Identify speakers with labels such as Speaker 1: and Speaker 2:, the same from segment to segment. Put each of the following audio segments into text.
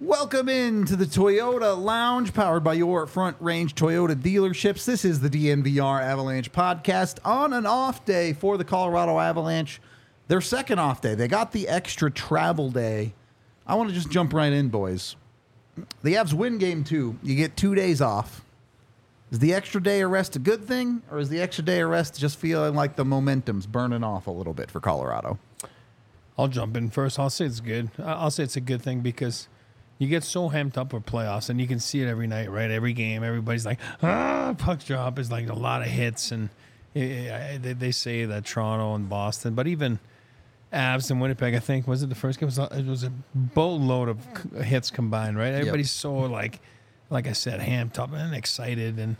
Speaker 1: Welcome into the Toyota Lounge, powered by your Front Range Toyota dealerships. This is the DNVR Avalanche podcast on an off day for the Colorado Avalanche. Their second off day. They got the extra travel day. I want to just jump right in, boys. The Avs win game 2. You get 2 days off. Is the extra day of rest a good thing, or is the extra day of rest just feeling like the momentum's burning off a little bit for Colorado?
Speaker 2: I'll jump in first. I'll say it's good. I'll say it's a good thing because you get so hamped up for playoffs, and you can see it every night, right? Every game, everybody's like, puck drop is like a lot of hits, and they say that Toronto and Boston, but even Avs and Winnipeg, I think, was it the first game? It was a boatload of hits combined, right? Everybody's so, like I said, hamped up and excited, and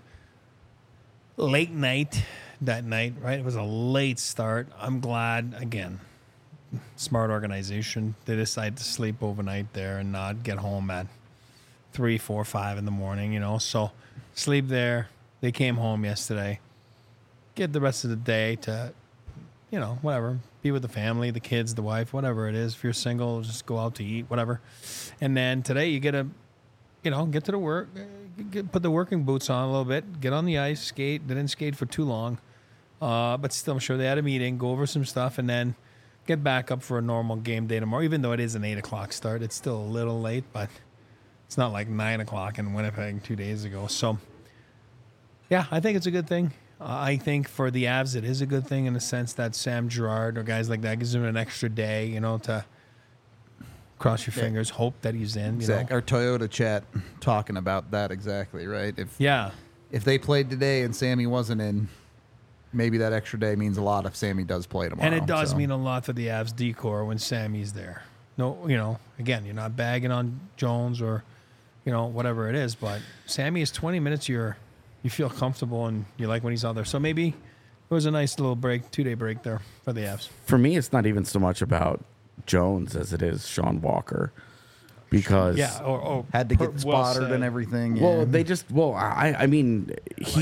Speaker 2: late night that night, right? It was a late start. I'm glad, again, smart organization. They decided to sleep overnight there and not get home at 3, 4, 5 in the morning, So sleep there. They came home yesterday. Get the rest of the day to, whatever. Be with the family, the kids, the wife, whatever it is. If you're single, just go out to eat, whatever. And then today you get to, get to the work, put the working boots on a little bit, get on the ice, skate. They didn't skate for too long. But still, I'm sure they had a meeting, go over some stuff, and then get back up for a normal game day tomorrow. Even though it is an 8 o'clock start, it's still a little late, but it's not like 9 o'clock in Winnipeg 2 days ago. So, yeah, I think it's a good thing. I think for the Avs, it is a good thing in the sense that Sam Girard or guys like that gives them an extra day, to cross your fingers, hope that he's in.
Speaker 1: Exactly. Our Toyota chat talking about that exactly, right? If they played today and Sammy wasn't in, maybe that extra day means a lot if Sammy does play tomorrow.
Speaker 2: And it does mean a lot for the Avs decor when Sammy's there. No, again, you're not bagging on Jones or, whatever it is, but Sammy is 20 minutes you feel comfortable and you like when he's out there. So maybe it was a nice little break, 2-day break there for the Avs.
Speaker 3: For me, it's not even so much about Jones as it is Sean Walker. Because
Speaker 1: or had to get spotted and everything.
Speaker 3: Well, I mean,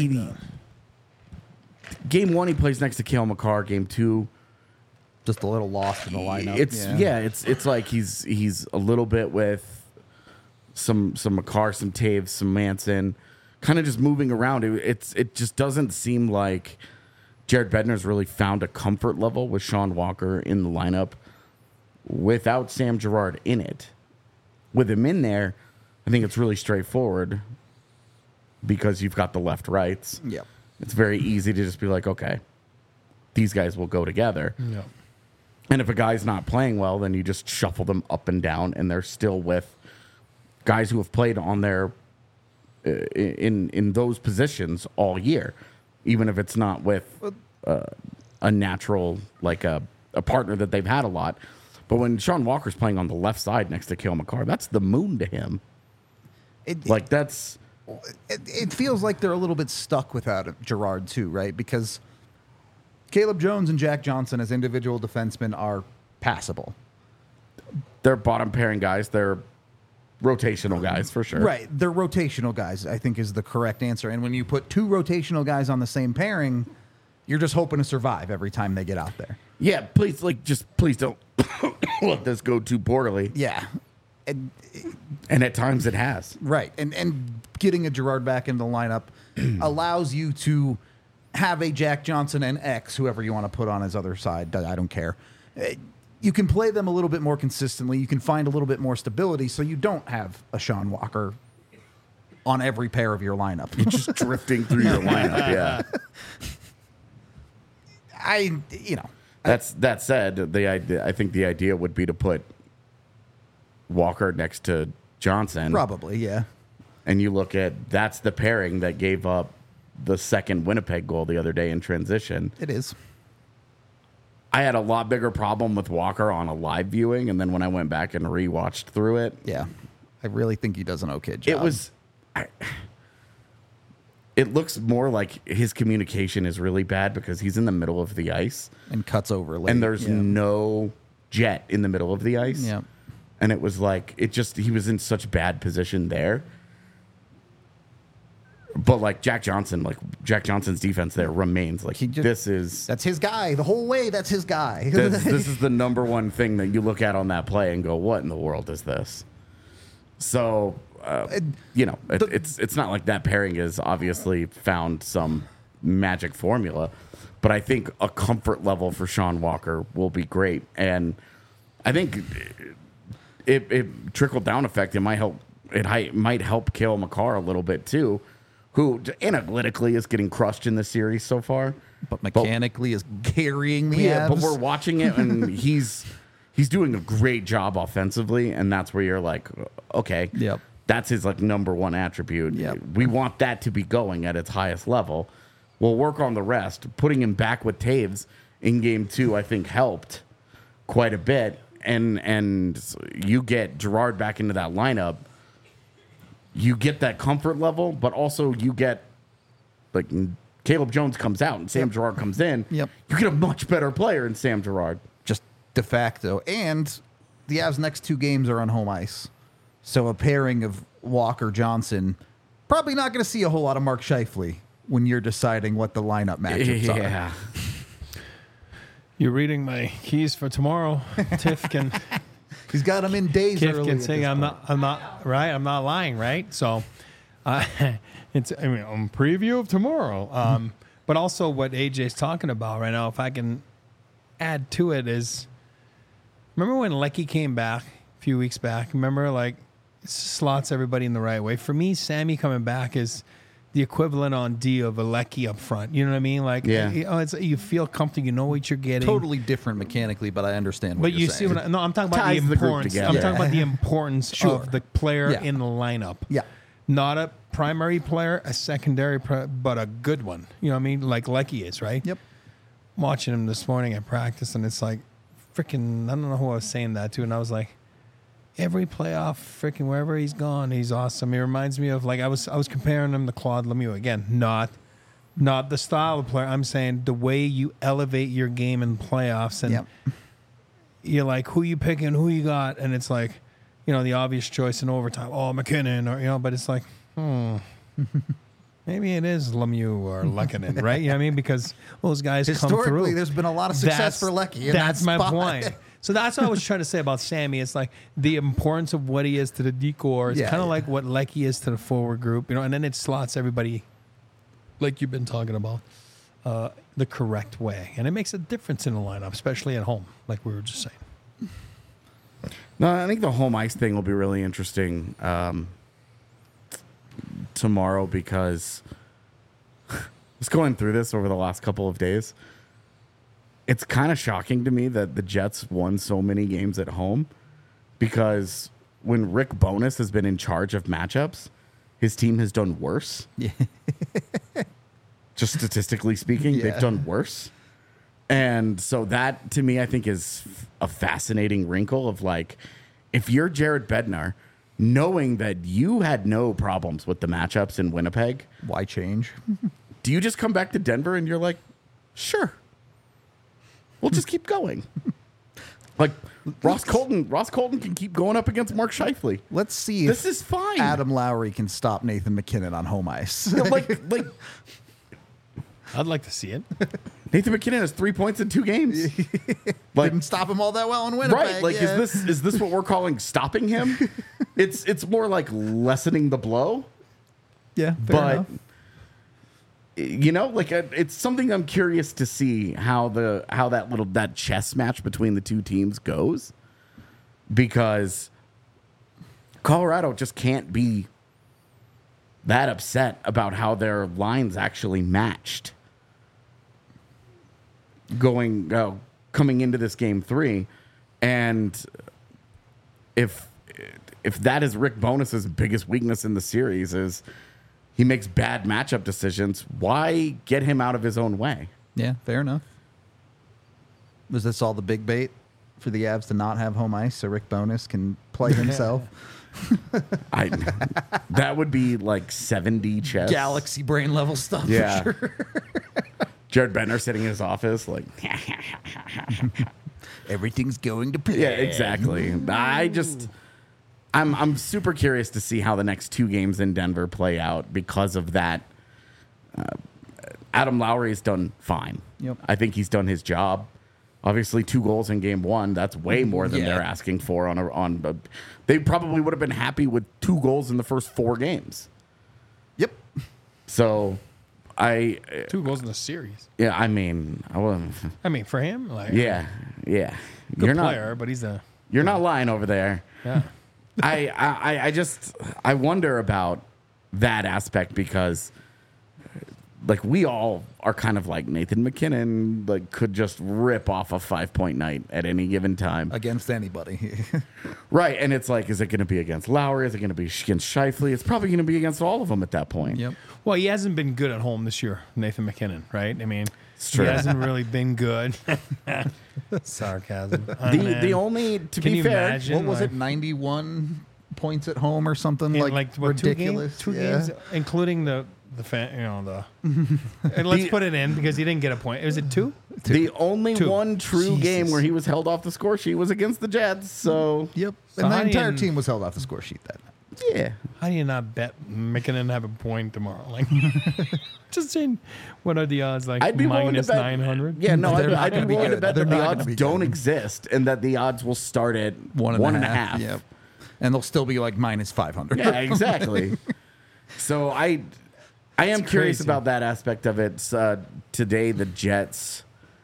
Speaker 3: Game 1, he plays next to Cale Makar. Game 2,
Speaker 1: just a little lost in the lineup.
Speaker 3: It's like he's a little bit with some Makar, some Taves, some Manson, kind of just moving around. It just doesn't seem like Jared Bednar's really found a comfort level with Sean Walker in the lineup without Sam Girard in it. With him in there, I think it's really straightforward because you've got the left rights.
Speaker 1: Yep.
Speaker 3: It's very easy to just be like, okay, these guys will go together.
Speaker 2: Yeah.
Speaker 3: And if a guy's not playing well, then you just shuffle them up and down, and they're still with guys who have played on their in those positions all year, even if it's not with a natural, like a partner that they've had a lot. But when Sean Walker's playing on the left side next to Cale Makar, that's the moon to him. It
Speaker 1: feels like they're a little bit stuck without Girard too, right? Because Caleb Jones and Jack Johnson as individual defensemen are passable.
Speaker 3: They're bottom pairing guys. They're rotational guys for sure.
Speaker 1: Right. They're rotational guys, I think is the correct answer. And when you put 2 rotational guys on the same pairing, you're just hoping to survive every time they get out there.
Speaker 3: Yeah, please don't let this go too poorly.
Speaker 1: Yeah.
Speaker 3: And at times it has.
Speaker 1: Right. And getting a Girard back into the lineup allows you to have a Jack Johnson and X, whoever you want to put on his other side. I don't care. You can play them a little bit more consistently. You can find a little bit more stability so you don't have a Sean Walker on every pair of your lineup.
Speaker 3: You're just drifting through your lineup, yeah. That said, I think the idea would be to put Walker next to Johnson.
Speaker 1: Probably, yeah.
Speaker 3: And you look at, that's the pairing that gave up the second Winnipeg goal the other day in transition.
Speaker 1: It is.
Speaker 3: I had a lot bigger problem with Walker on a live viewing, and then when I went back and rewatched through it.
Speaker 1: Yeah. I really think he does an okay job.
Speaker 3: It looks more like his communication is really bad because he's in the middle of the ice.
Speaker 1: And cuts over late.
Speaker 3: And there's no jet in the middle of the ice.
Speaker 1: Yeah.
Speaker 3: And it was like, he was in such bad position there. But like Jack Johnson's defense there remains like that's
Speaker 1: his guy the whole way. That's his guy.
Speaker 3: This is the number one thing that you look at on that play and go, what in the world is this? So, it's not like that pairing has obviously found some magic formula, but I think a comfort level for Sean Walker will be great. And I think it trickled down effect. It might help. It might help Cale Makar a little bit too, who analytically is getting crushed in the series so far,
Speaker 1: but mechanically is carrying the Avs.
Speaker 3: But we're watching it, and he's doing a great job offensively, and that's where you're like, okay,
Speaker 1: yep.
Speaker 3: That's his like number one attribute.
Speaker 1: Yep.
Speaker 3: We want that to be going at its highest level. We'll work on the rest. Putting him back with Taves in game 2, I think, helped quite a bit. And you get Girard back into that lineup. You get that comfort level, but also you get, like, Caleb Jones comes out and Sam Girard comes in.
Speaker 1: Yep.
Speaker 3: You get a much better player in Sam Girard.
Speaker 1: Just de facto. And the Avs' next 2 games are on home ice. So a pairing of Walker Johnson, probably not going to see a whole lot of Mark Scheifele when you're deciding what the lineup matchups are.
Speaker 2: You're reading my keys for tomorrow. Tiff can.
Speaker 1: He's got them in days
Speaker 2: Tiff
Speaker 1: early.
Speaker 2: can say I'm not right. I'm not lying, right? So, it's preview of tomorrow. But also what AJ's talking about right now. If I can add to it is, remember when Lecky came back a few weeks back? Remember, like, slots everybody in the right way. For me, Sammy coming back is the equivalent on D of a Lecky up front. You know what I mean? Like, you feel comfortable. You know what you're getting.
Speaker 1: Totally different mechanically, but I understand what
Speaker 2: but
Speaker 1: you're
Speaker 2: you
Speaker 1: saying.
Speaker 2: see what I'm talking about.
Speaker 3: Ties
Speaker 2: The
Speaker 3: the group
Speaker 2: importance.
Speaker 3: together.
Speaker 2: I'm talking about the importance of the player in the lineup.
Speaker 1: Yeah.
Speaker 2: Not a primary player, a secondary, but a good one. You know what I mean? Like Lecky is, right?
Speaker 1: Yep.
Speaker 2: Watching him this morning at practice, and it's like, freaking, I don't know who I was saying that to, and I was like, every playoff, freaking wherever he's gone, he's awesome. He reminds me of, like, I was comparing him to Claude Lemieux. Again, not the style of player. I'm saying the way you elevate your game in playoffs, and you're like, who you picking, who you got, and it's like, the obvious choice in overtime. Oh, McKinnon, or but it's like, maybe it is Lemieux or Lehkonen, right? You know what I mean? Because those guys come through.
Speaker 1: Historically, there's been a lot of success for Lecky.
Speaker 2: That's my point. So that's what I was trying to say about Sammy. It's like the importance of what he is to the decor. It's kind of like what Lecky is to the forward group, and then it slots everybody, like you've been talking about, the correct way. And it makes a difference in the lineup, especially at home, like we were just saying.
Speaker 3: No, I think the home ice thing will be really interesting tomorrow, because just going through this over the last couple of days, it's kind of shocking to me that the Jets won so many games at home, because when Rick Bowness has been in charge of matchups, his team has done worse.
Speaker 1: Yeah.
Speaker 3: Just statistically speaking, they've done worse. And so that, to me, I think is a fascinating wrinkle of, like, if you're Jared Bednar, knowing that you had no problems with the matchups in Winnipeg,
Speaker 1: Why change?
Speaker 3: do you just come back to Denver and you're like, sure, we'll just keep going? Like, Ross Colton can keep going up against Mark Scheifele.
Speaker 1: Let's see
Speaker 3: This
Speaker 1: if
Speaker 3: is fine.
Speaker 1: Adam Lowry can stop Nathan McKinnon on home ice.
Speaker 3: like
Speaker 2: I'd like to see it.
Speaker 3: Nathan McKinnon has 3 points in 2 games. Like,
Speaker 1: Didn't stop him all that well in Winnipeg.
Speaker 3: right? Like, is this what we're calling stopping him? It's more like lessening the blow.
Speaker 1: Yeah, fair
Speaker 3: But
Speaker 1: enough.
Speaker 3: like, it's something I'm curious to see how that chess match between the two teams goes, because Colorado just can't be that upset about how their lines actually matched coming into this game 3. And if that is Rick Bowness's biggest weakness in the series, is he makes bad matchup decisions, why get him out of his own way?
Speaker 1: Yeah, fair enough. Was this all the big bait for the Avs to not have home ice so Rick Bowness can play himself?
Speaker 3: That would be like 7D chess.
Speaker 1: Galaxy brain level stuff.
Speaker 3: Yeah.
Speaker 1: For sure.
Speaker 3: Jared Bednar sitting in his office like,
Speaker 1: Everything's going to plan.
Speaker 3: yeah, exactly. I'm super curious to see how the next 2 games in Denver play out because of that. Adam Lowry has done fine.
Speaker 1: Yep.
Speaker 3: I think he's done his job. Obviously, 2 goals in game 1. That's way more than they're asking for they probably would have been happy with 2 goals in the first 4 games.
Speaker 1: Yep.
Speaker 3: So
Speaker 2: 2 goals in the series.
Speaker 3: Yeah, I mean,
Speaker 2: For him, like
Speaker 3: yeah.
Speaker 2: good
Speaker 3: You're
Speaker 2: player, but he's
Speaker 3: you're not lying over there.
Speaker 2: yeah.
Speaker 3: I wonder about that aspect because, like, we all are kind of like Nathan McKinnon, like, could just rip off a 5-point night at any given time
Speaker 1: Against anybody.
Speaker 3: right? And it's like, is it going to be against Lowry? Is it going to be against Scheifele? It's probably going to be against all of them at that point.
Speaker 1: Yep.
Speaker 2: Well, he hasn't been good at home this year, Nathan McKinnon, right? I mean,
Speaker 3: true.
Speaker 2: he hasn't really been good. Sarcasm.
Speaker 3: The only, to
Speaker 2: Can
Speaker 3: be
Speaker 2: you
Speaker 3: fair,
Speaker 2: imagine?
Speaker 1: What was
Speaker 2: like,
Speaker 1: it? 91 points at home or something
Speaker 2: in
Speaker 1: like
Speaker 2: what,
Speaker 1: ridiculous.
Speaker 2: 2 games, including the fan, and let's put it in because he didn't get a point. Was it 2?
Speaker 3: the only
Speaker 2: 2.
Speaker 3: one true
Speaker 2: Jesus.
Speaker 3: game where he was held off the score sheet was against the Jets. So
Speaker 1: Yep.
Speaker 2: So
Speaker 1: And the
Speaker 2: how do
Speaker 1: entire
Speaker 2: you-
Speaker 1: team was held off the score sheet that night.
Speaker 3: yeah,
Speaker 2: How do you not bet McKinnon to have a point tomorrow? Like, just saying, what are the odds? Like
Speaker 3: I'd be willing to
Speaker 2: minus
Speaker 3: bet
Speaker 2: 900.
Speaker 3: Yeah, no,
Speaker 1: They're not
Speaker 3: I'd be
Speaker 1: gonna be
Speaker 3: willing to
Speaker 1: good.
Speaker 3: bet
Speaker 1: They're
Speaker 3: that the
Speaker 1: not gonna
Speaker 3: odds
Speaker 1: be
Speaker 3: don't
Speaker 1: good.
Speaker 3: exist and that the odds will start at one and a half.
Speaker 1: Yep. And they'll still be like minus 500.
Speaker 3: Yeah, exactly. So I am curious
Speaker 2: crazy.
Speaker 3: about that aspect of it. Today, the Jets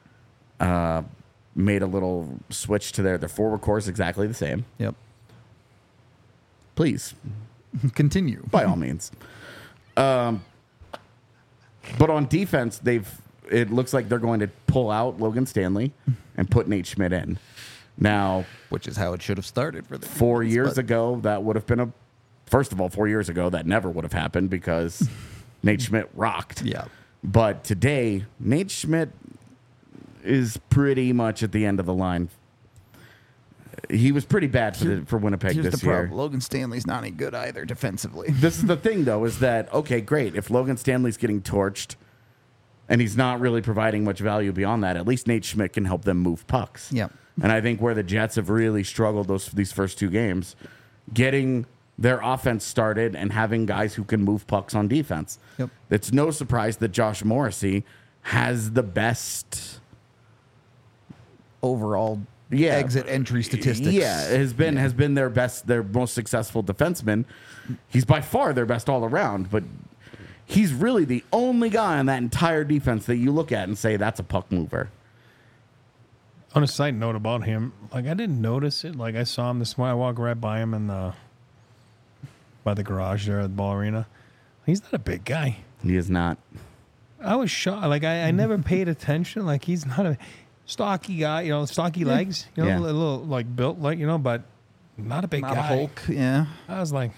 Speaker 3: made a little switch to their forward course exactly the same.
Speaker 1: Yep.
Speaker 3: Please,
Speaker 1: Continue.
Speaker 3: by all means. But on defense, it looks like they're going to pull out Logan Stanley and put Nate Schmidt in. Now,
Speaker 1: Which is how it should have started for the
Speaker 3: 4 years
Speaker 1: but-
Speaker 3: ago, that would have been first of all, 4 years ago, that never would have happened because Nate Schmidt rocked.
Speaker 1: Yeah.
Speaker 3: But today, Nate Schmidt is pretty much at the end of the line. He was pretty bad for Winnipeg
Speaker 1: Here's
Speaker 3: this
Speaker 1: the
Speaker 3: year.
Speaker 1: problem. Logan Stanley's not any good either defensively.
Speaker 3: This is the thing, though, is that, okay, great. If Logan Stanley's getting torched and he's not really providing much value beyond that, at least Nate Schmidt can help them move pucks.
Speaker 1: Yep.
Speaker 3: And I think where the Jets have really struggled these first 2 games, getting their offense started and having guys who can move pucks on defense.
Speaker 1: Yep.
Speaker 3: It's no surprise that Josh Morrissey has the best
Speaker 1: Overall
Speaker 3: Yeah.
Speaker 1: exit entry statistics.
Speaker 3: Yeah, has been their most successful defenseman. He's by far their best all around, but he's really the only guy on that entire defense that you look at and say that's a puck mover.
Speaker 2: On a side note about him, like I didn't notice it. Like I saw him this morning. I walked right by him by the garage there at the ball arena. He's not a big guy.
Speaker 3: He is not.
Speaker 2: I was shocked. Like I never paid attention. Like he's not a stocky guy. Stocky legs.
Speaker 3: Yeah.
Speaker 2: A little like built like but not a big
Speaker 1: Not
Speaker 2: guy.
Speaker 1: a Hulk. Yeah.
Speaker 2: I was like,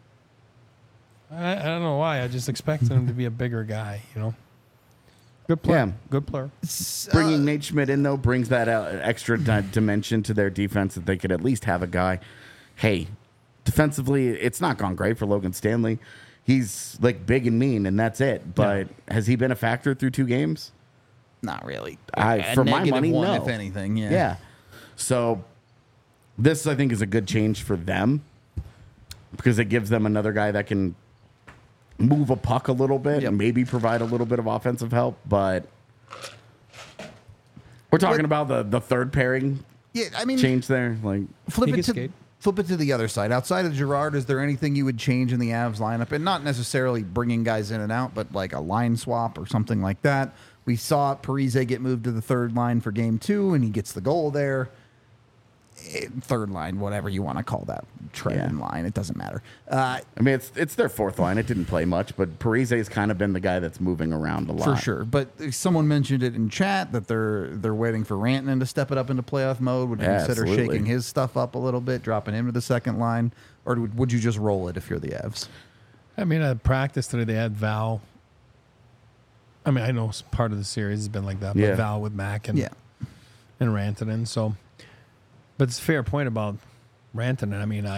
Speaker 2: I don't know why. I just expected him to be a bigger guy. Good player.
Speaker 3: Yeah.
Speaker 2: Good player.
Speaker 3: Bringing Nate Schmidt in, though, brings that extra dimension to their defense that they could at least have a guy. Hey, defensively, it's not gone great for Logan Stanley. He's like big and mean, and that's it. But has he been a factor through 2 games?
Speaker 1: Not really.
Speaker 3: For my money,
Speaker 1: -1,
Speaker 3: no.
Speaker 1: if anything. Yeah.
Speaker 3: Yeah. So this, I think, is a good change for them because it gives them another guy that can move a puck a little bit and maybe provide a little bit of offensive help. But we're talking about the third pairing
Speaker 1: Yeah. I mean,
Speaker 3: change there. Like,
Speaker 1: flip
Speaker 2: He
Speaker 1: it
Speaker 2: can
Speaker 1: to
Speaker 2: skate.
Speaker 1: flip it to the other side. Outside of Girard, is there anything you would change in the Avs lineup? And not necessarily bringing guys in and out, but like a line swap or something like that. We saw Parise get moved to the third line for game 2, and he gets the goal there. Third line, whatever you want to call that, trend line, it doesn't matter.
Speaker 3: I mean, it's their fourth line. It didn't play much, but Parise has kind of been the guy that's moving around a lot.
Speaker 1: For sure. But someone mentioned it in chat that they're waiting for Rantanen to step it up into playoff mode. Would you
Speaker 3: Yeah,
Speaker 1: consider
Speaker 3: absolutely.
Speaker 1: shaking his stuff up a little bit, dropping him to the second line? Or would you just roll it if you're the Avs?
Speaker 2: I mean, at practice today, they had Val. I mean, I know part of the series has been like that, but
Speaker 3: Yeah.
Speaker 2: Val with Mac and
Speaker 1: Yeah.
Speaker 2: Rantanen. So, but it's a fair point about Rantanen. I mean,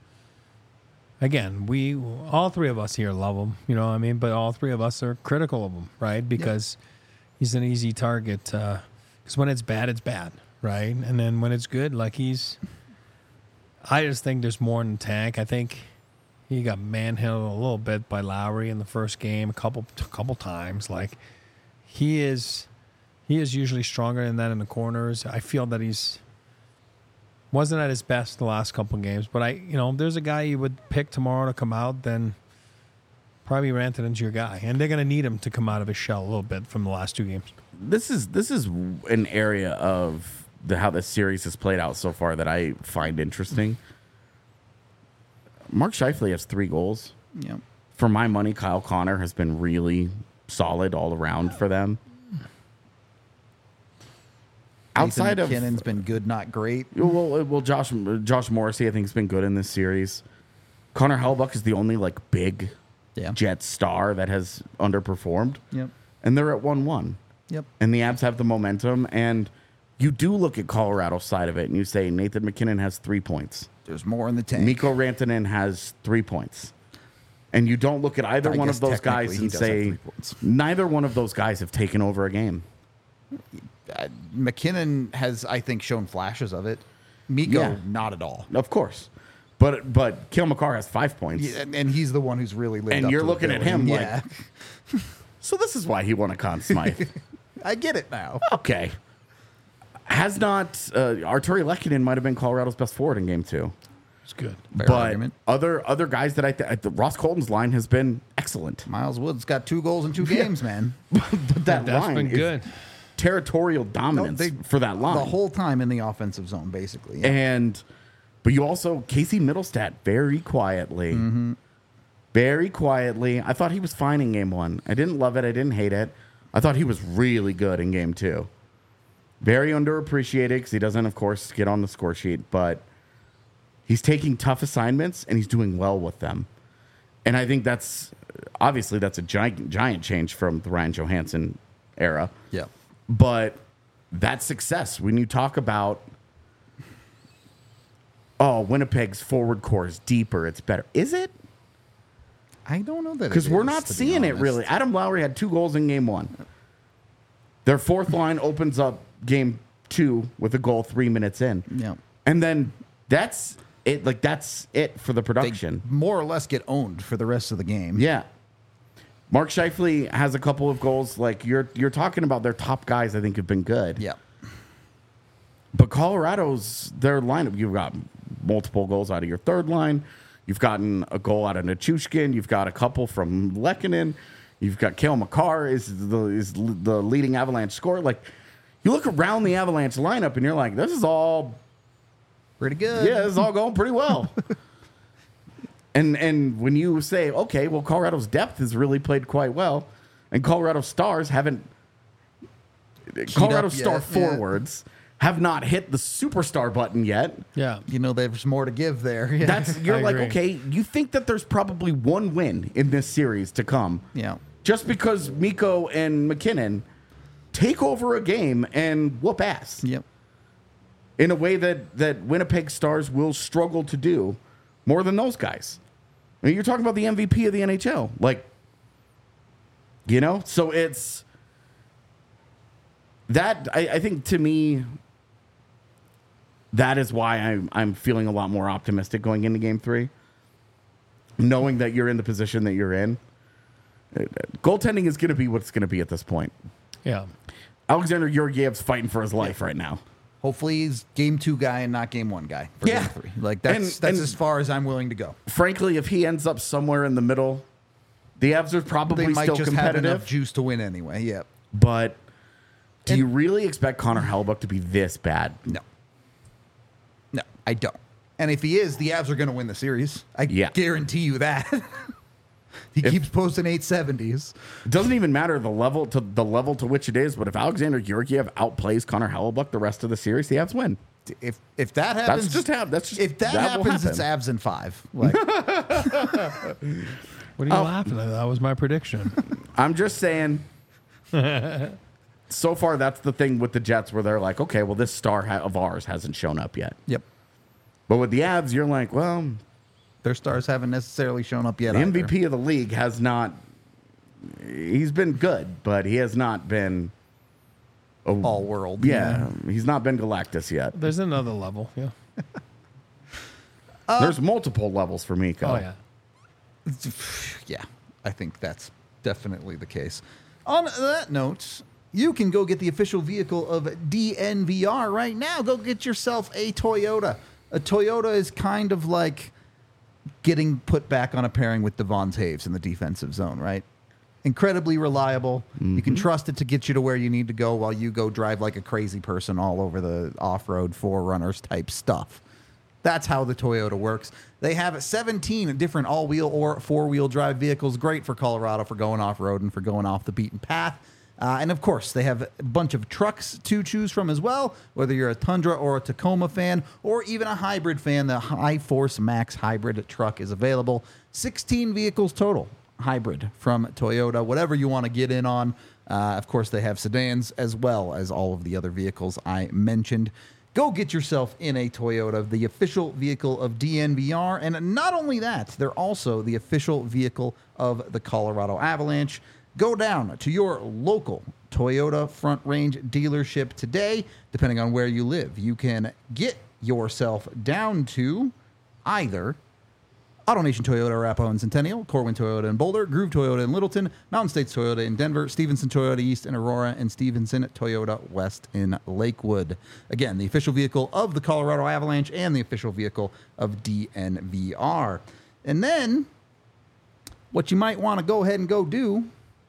Speaker 2: we all 3 of us here love him, but all 3 of us are critical of him, right? Because he's an easy target. Because when it's bad, right? And then when it's good, I just think there's more in the tank. I think he got manhandled a little bit by Lowry in the first game, a couple times. Like he is He is usually stronger than that in the corners. I feel that he's wasn't at his best the last couple of games, but there's a guy you would pick tomorrow to come out, then probably Rantanen's your guy, and they're going to need him to come out of his shell a little bit from the last 2 games.
Speaker 3: This is an area of how this series has played out so far that I find interesting. Mark Scheifele has 3 goals.
Speaker 1: Yep.
Speaker 3: For my money, Kyle Connor has been really solid all around for them.
Speaker 1: Outside of McKinnon's been good, not great.
Speaker 3: Well, Josh Morrissey, I think, has been good in this series. Connor Hellebuyck is the only big Jet star that has underperformed.
Speaker 1: Yep.
Speaker 3: And they're at 1-1.
Speaker 1: Yep.
Speaker 3: And the Abs have the momentum. And you do look at Colorado's side of it, and you say Nathan McKinnon has 3 points.
Speaker 1: There's more in the tank.
Speaker 3: Mikko Rantanen has 3 points. And you don't look at either one of those guys and say neither one of those guys have taken over a game.
Speaker 1: McKinnon has, I think, shown flashes of it. Mikko, not at all.
Speaker 3: Of course. But Cale Makar has 5 points.
Speaker 1: Yeah, and he's the one who's really lived up
Speaker 3: and you're
Speaker 1: to
Speaker 3: looking
Speaker 1: the
Speaker 3: at him
Speaker 1: yeah.
Speaker 3: So this is why he won a Conn Smythe.
Speaker 1: I get it now.
Speaker 3: Okay. Has not Arturi Lehkonen might have been Colorado's best forward in game 2.
Speaker 2: It's good.
Speaker 1: Fair
Speaker 3: but
Speaker 1: argument.
Speaker 3: other guys that Ross Colton's line has been excellent.
Speaker 1: Miles Wood's got 2 goals in 2 games, man.
Speaker 3: But that's
Speaker 2: been good.
Speaker 3: Territorial dominance for that line.
Speaker 1: The whole time in the offensive zone, basically. Yeah.
Speaker 3: But you also, Casey Middlestat, very quietly.
Speaker 1: Mm-hmm.
Speaker 3: Very quietly. I thought he was fine in game 1. I didn't love it. I didn't hate it. I thought he was really good in game 2. Very underappreciated because he doesn't, of course, get on the score sheet. But he's taking tough assignments and he's doing well with them. And I think that's a giant change from the Ryan Johansson era.
Speaker 1: Yeah.
Speaker 3: But that's success. When you talk about, Winnipeg's forward core is deeper, it's better. Is it?
Speaker 1: I don't know that
Speaker 3: because we're not seeing it really. Adam Lowry had 2 goals in game 1. Their fourth line opens up game 2 with a goal 3 minutes in.
Speaker 1: Yeah.
Speaker 3: And then that's it. That's it for the production.
Speaker 1: They more or less get owned for the rest of the game.
Speaker 3: Yeah. Mark Scheifele has a couple of goals. You're talking about their top guys, I think, have been good.
Speaker 1: Yeah.
Speaker 3: But Colorado's, their lineup, you've got multiple goals out of your third line. You've gotten a goal out of Nichushkin. You've got a couple from Lehkonen. You've got Cale Makar is the leading Avalanche scorer. You look around the Avalanche lineup and you're like, this is all
Speaker 1: pretty good.
Speaker 3: Yeah, this is all going pretty well. And when you say, okay, well, Colorado's depth has really played quite well, and Colorado Stars haven't. Colorado Star forwards have not hit the superstar button yet.
Speaker 2: Yeah.
Speaker 1: There's more to give there. Yeah.
Speaker 3: You're like, okay, you think that there's probably one win in this series to come.
Speaker 1: Yeah.
Speaker 3: Just because Mikko and McKinnon take over a game and whoop ass.
Speaker 1: Yep.
Speaker 3: In a way that Winnipeg Stars will struggle to do more than those guys. I mean, you're talking about the MVP of the NHL. So it's that I think to me, that is why I'm feeling a lot more optimistic going into game 3. Knowing that you're in the position that you're in. Goaltending is going to be what it's going to be at this point.
Speaker 2: Yeah.
Speaker 3: Alexander Georgiev's fighting for his life right now.
Speaker 1: Hopefully he's game 2 guy and not game 1 guy for game 3. That's as far as I'm willing to go.
Speaker 3: Frankly, if he ends up somewhere in the middle, the Avs are probably
Speaker 1: they might
Speaker 3: still
Speaker 1: just
Speaker 3: competitive.
Speaker 1: have enough juice to win anyway. Yeah.
Speaker 3: But do you really expect Connor Hellebuyck to be this bad?
Speaker 1: No. No, I don't. And if he is, the Avs are going to win the series. I guarantee you that. He keeps posting 870s.
Speaker 3: It doesn't even matter the level to which it is, but if Alexander Georgiev outplays Connor Hellebuyck the rest of the series, the Avs win.
Speaker 1: If that happens, if that happens, it's Avs in 5.
Speaker 2: What are you laughing at? That was my prediction.
Speaker 3: I'm just saying. So far, that's the thing with the Jets where they're like, okay, well, this star of ours hasn't shown up yet.
Speaker 1: Yep.
Speaker 3: But with the Avs, you're like, well,
Speaker 1: their stars haven't necessarily shown up yet.
Speaker 3: The MVP of the league has not. He's been good, but he has not been
Speaker 1: all world.
Speaker 3: Yeah, he's not been Galactus yet.
Speaker 2: There's another level. Yeah.
Speaker 3: There's multiple levels for Mikko.
Speaker 2: Oh yeah.
Speaker 1: Yeah, I think that's definitely the case. On that note, you can go get the official vehicle of DNVR right now. Go get yourself a Toyota. A Toyota is kind of like getting put back on a pairing with Devon Taves in the defensive zone, right? Incredibly reliable. You can trust it to get you to where you need to go while you go drive like a crazy person all over the off-road forerunners type stuff. That's how the Toyota works. They have 17 different all-wheel or four-wheel drive vehicles. Great for Colorado for going off-road and for going off the beaten path. And of course, they have a bunch of trucks to choose from as well, whether you're a Tundra or a Tacoma fan, or even a hybrid fan. The Hi-Force Max hybrid truck is available. 16 vehicles total hybrid from Toyota, whatever you want to get in on. Of course, they have sedans as well as all of the other vehicles I mentioned. Go get yourself in a Toyota, the official vehicle of DNVR. And not only that, they're also the official vehicle of the Colorado Avalanche. Go down to your local Toyota Front Range dealership today, depending on where you live. You can get yourself down to either AutoNation Toyota Arapahoe and Centennial, Corwin Toyota in Boulder, Groove Toyota in Littleton, Mountain States Toyota in Denver, Stevenson Toyota East in Aurora, and Stevenson Toyota West in Lakewood. Again, the official vehicle of the Colorado Avalanche and the official vehicle of DNVR. And then, what you might want to go ahead and go do,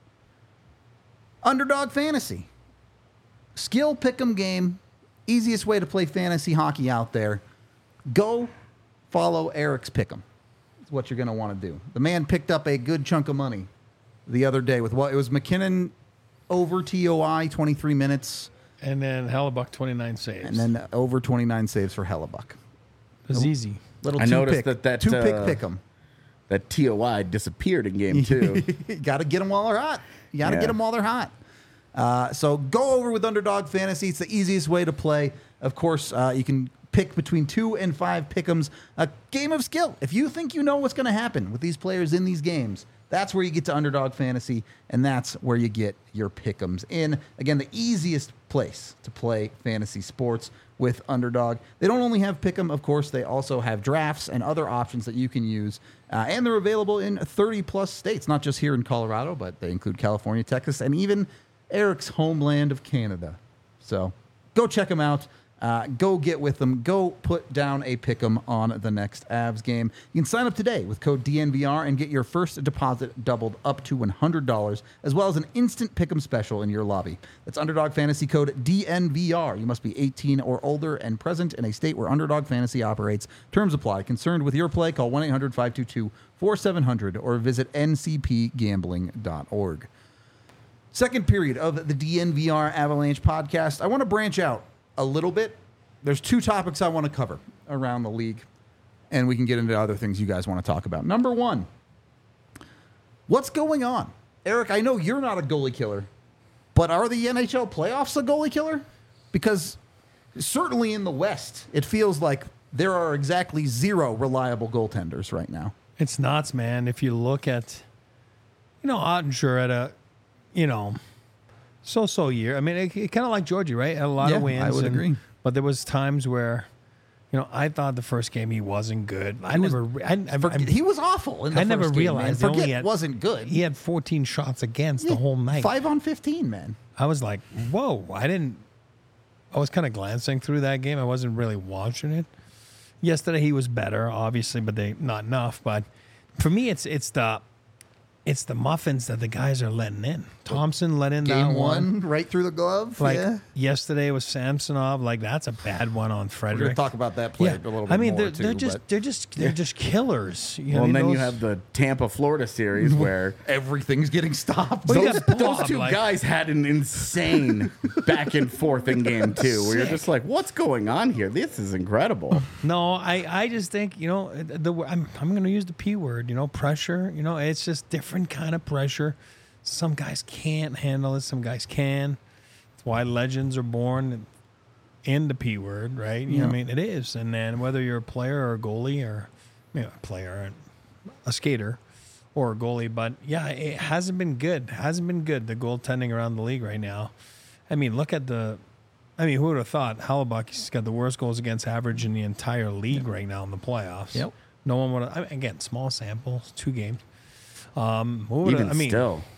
Speaker 1: Underdog Fantasy. Skill pick'em game. Easiest way to play fantasy hockey out there. Go follow Eric's pick'em. That's what you're going to want to do. The man picked up a good chunk of money the other day with what? It was McKinnon over TOI, 23 minutes.
Speaker 2: And then Hellebuck, 29 saves.
Speaker 1: And then over 29 saves for Hellebuck.
Speaker 2: It was easy.
Speaker 1: Little
Speaker 3: I noticed
Speaker 1: two-pick pick'em.
Speaker 3: That TOI disappeared in game 2.
Speaker 1: You got to get them while they're hot. You got to get them while they're hot. So go over with Underdog Fantasy. It's the easiest way to play. Of course, you can pick between 2 and 5 pick'ems. A game of skill. If you think you know what's going to happen with these players in these games, that's where you get to Underdog Fantasy, and that's where you get your pick'ems in. Again, the easiest place to play fantasy sports with Underdog. They don't only have pick'em, of course, they also have drafts and other options that you can use. And they're available in 30-plus states, not just here in Colorado, but they include California, Texas, and even Eric's homeland of Canada. So go check them out. Go get with them. Go put down a pick'em on the next Avs game. You can sign up today with code DNVR and get your first deposit doubled up to $100, as well as an instant pick'em special in your lobby. That's Underdog Fantasy code DNVR. You must be 18 or older and present in a state where Underdog Fantasy operates. Terms apply. Concerned with your play, call 1-800-522-4700 or visit ncpgambling.org. Second period of the DNVR Avalanche podcast. I want to branch out a little bit. There's 2 topics I want to cover around the league, and we can get into other things you guys want to talk about. Number 1, what's going on? Eric, I know you're not a goalie killer, but are the NHL playoffs a goalie killer? Because certainly in the West, it feels like there are exactly 0 reliable goaltenders right now.
Speaker 2: It's nuts, man. If you look at, Ottinger at a, so-so year. I mean, it kind of like Georgie, right? Had a lot of wins.
Speaker 1: I would agree.
Speaker 2: But there was times where, I thought the first game he wasn't good.
Speaker 1: He was awful in the first game. I never
Speaker 2: realized
Speaker 1: it wasn't good.
Speaker 2: He had 14 shots against the whole night.
Speaker 1: 5 on 15, man.
Speaker 2: I was like, whoa. I was kind of glancing through that game. I wasn't really watching it. Yesterday he was better, obviously, but not enough. But for me, it's the muffins that the guys are letting in. Thompson let in
Speaker 1: Game
Speaker 2: that one
Speaker 1: right through the glove.
Speaker 2: Yesterday was Samsonov. That's a bad one on Frederick.
Speaker 1: We're going to talk about that play a little bit more.
Speaker 2: They're just killers.
Speaker 3: And then you have the Tampa Florida series where
Speaker 1: everything's getting stopped.
Speaker 3: Those 2 guys had an insane back and forth in game 2 where you're just like, what's going on here? This is incredible.
Speaker 2: No, I just think, I'm going to use the P word, pressure. It's just different kind of pressure. Some guys can't handle it. Some guys can. That's why legends are born in the P word, right? You know what I mean? It is. And then whether you're a player or a goalie or a player, a skater or a goalie. But, it hasn't been good. The goaltending around the league right now. I mean, look at who would have thought Hellebuck's got the worst goals against average in the entire league right now in the playoffs.
Speaker 1: Yep.
Speaker 2: No one would have. Again, small samples, 2 games.
Speaker 3: Still.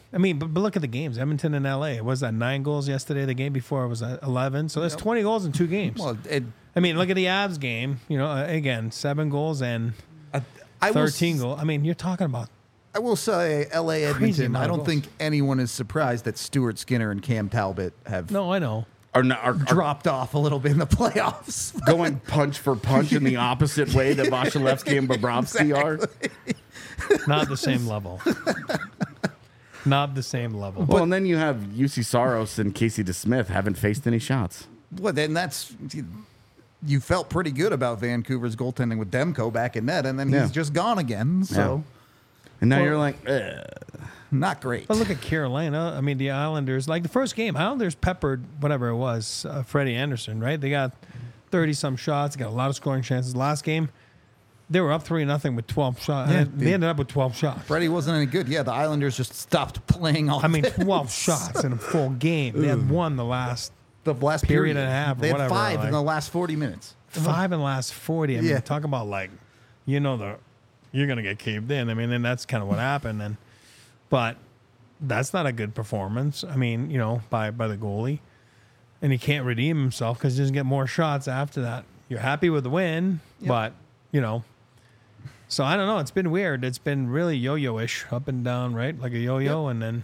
Speaker 2: I mean, but look at the games. Edmonton and LA. Was that 9 goals yesterday? The game before was 11. So that's 20 goals in 2 games.
Speaker 1: Well,
Speaker 2: I mean, look at the Avs game. You know, again, 7 goals and
Speaker 1: I will
Speaker 2: 13 goals. I mean, you're talking about.
Speaker 1: I will say, LA Edmonton.
Speaker 2: amount
Speaker 1: I
Speaker 2: of
Speaker 1: don't
Speaker 2: goals.
Speaker 1: think anyone is surprised that Stuart Skinner and Cam Talbot have
Speaker 2: No, I know.
Speaker 3: Are
Speaker 1: dropped off a little bit in the playoffs.
Speaker 3: going punch for punch in the opposite way that Vasilevsky and Bobrovsky are.
Speaker 2: Not the same level. Not the same level.
Speaker 3: Well, and then you have UC Saros and Casey DeSmith haven't faced any shots.
Speaker 1: Well, then you felt pretty good about Vancouver's goaltending with Demko back in net, and then
Speaker 3: Yeah.
Speaker 1: he's just gone again. So
Speaker 3: And now
Speaker 2: Well-
Speaker 3: you're like,
Speaker 1: not great.
Speaker 2: But look at Carolina. I mean, the Islanders, like the first game, Islanders peppered whatever it was, Freddie Anderson, right? They got 30-some shots, got a lot of scoring chances. Last game, they were up 3-0 with 12 shots.
Speaker 1: Yeah,
Speaker 2: They ended up with 12 shots.
Speaker 1: Freddie wasn't any good. Yeah, the Islanders just stopped playing all.
Speaker 2: I mean, 12 shots in a full game. They had won the last
Speaker 1: the last
Speaker 2: period and a half or
Speaker 1: They had
Speaker 2: whatever,
Speaker 1: 5 in
Speaker 2: like-
Speaker 1: the last 40 minutes.
Speaker 2: 5 in the last 40. I mean,
Speaker 1: Yeah.
Speaker 2: talk about like, you're going to get caved in. I mean, and that's kind of what happened. But that's not a good performance. I mean, by the goalie. And he can't redeem himself because he doesn't get more shots after that. You're happy with the win, but, So I don't know. It's been weird. It's been really yo-yo-ish, up and down, right? Like a yo-yo. And then,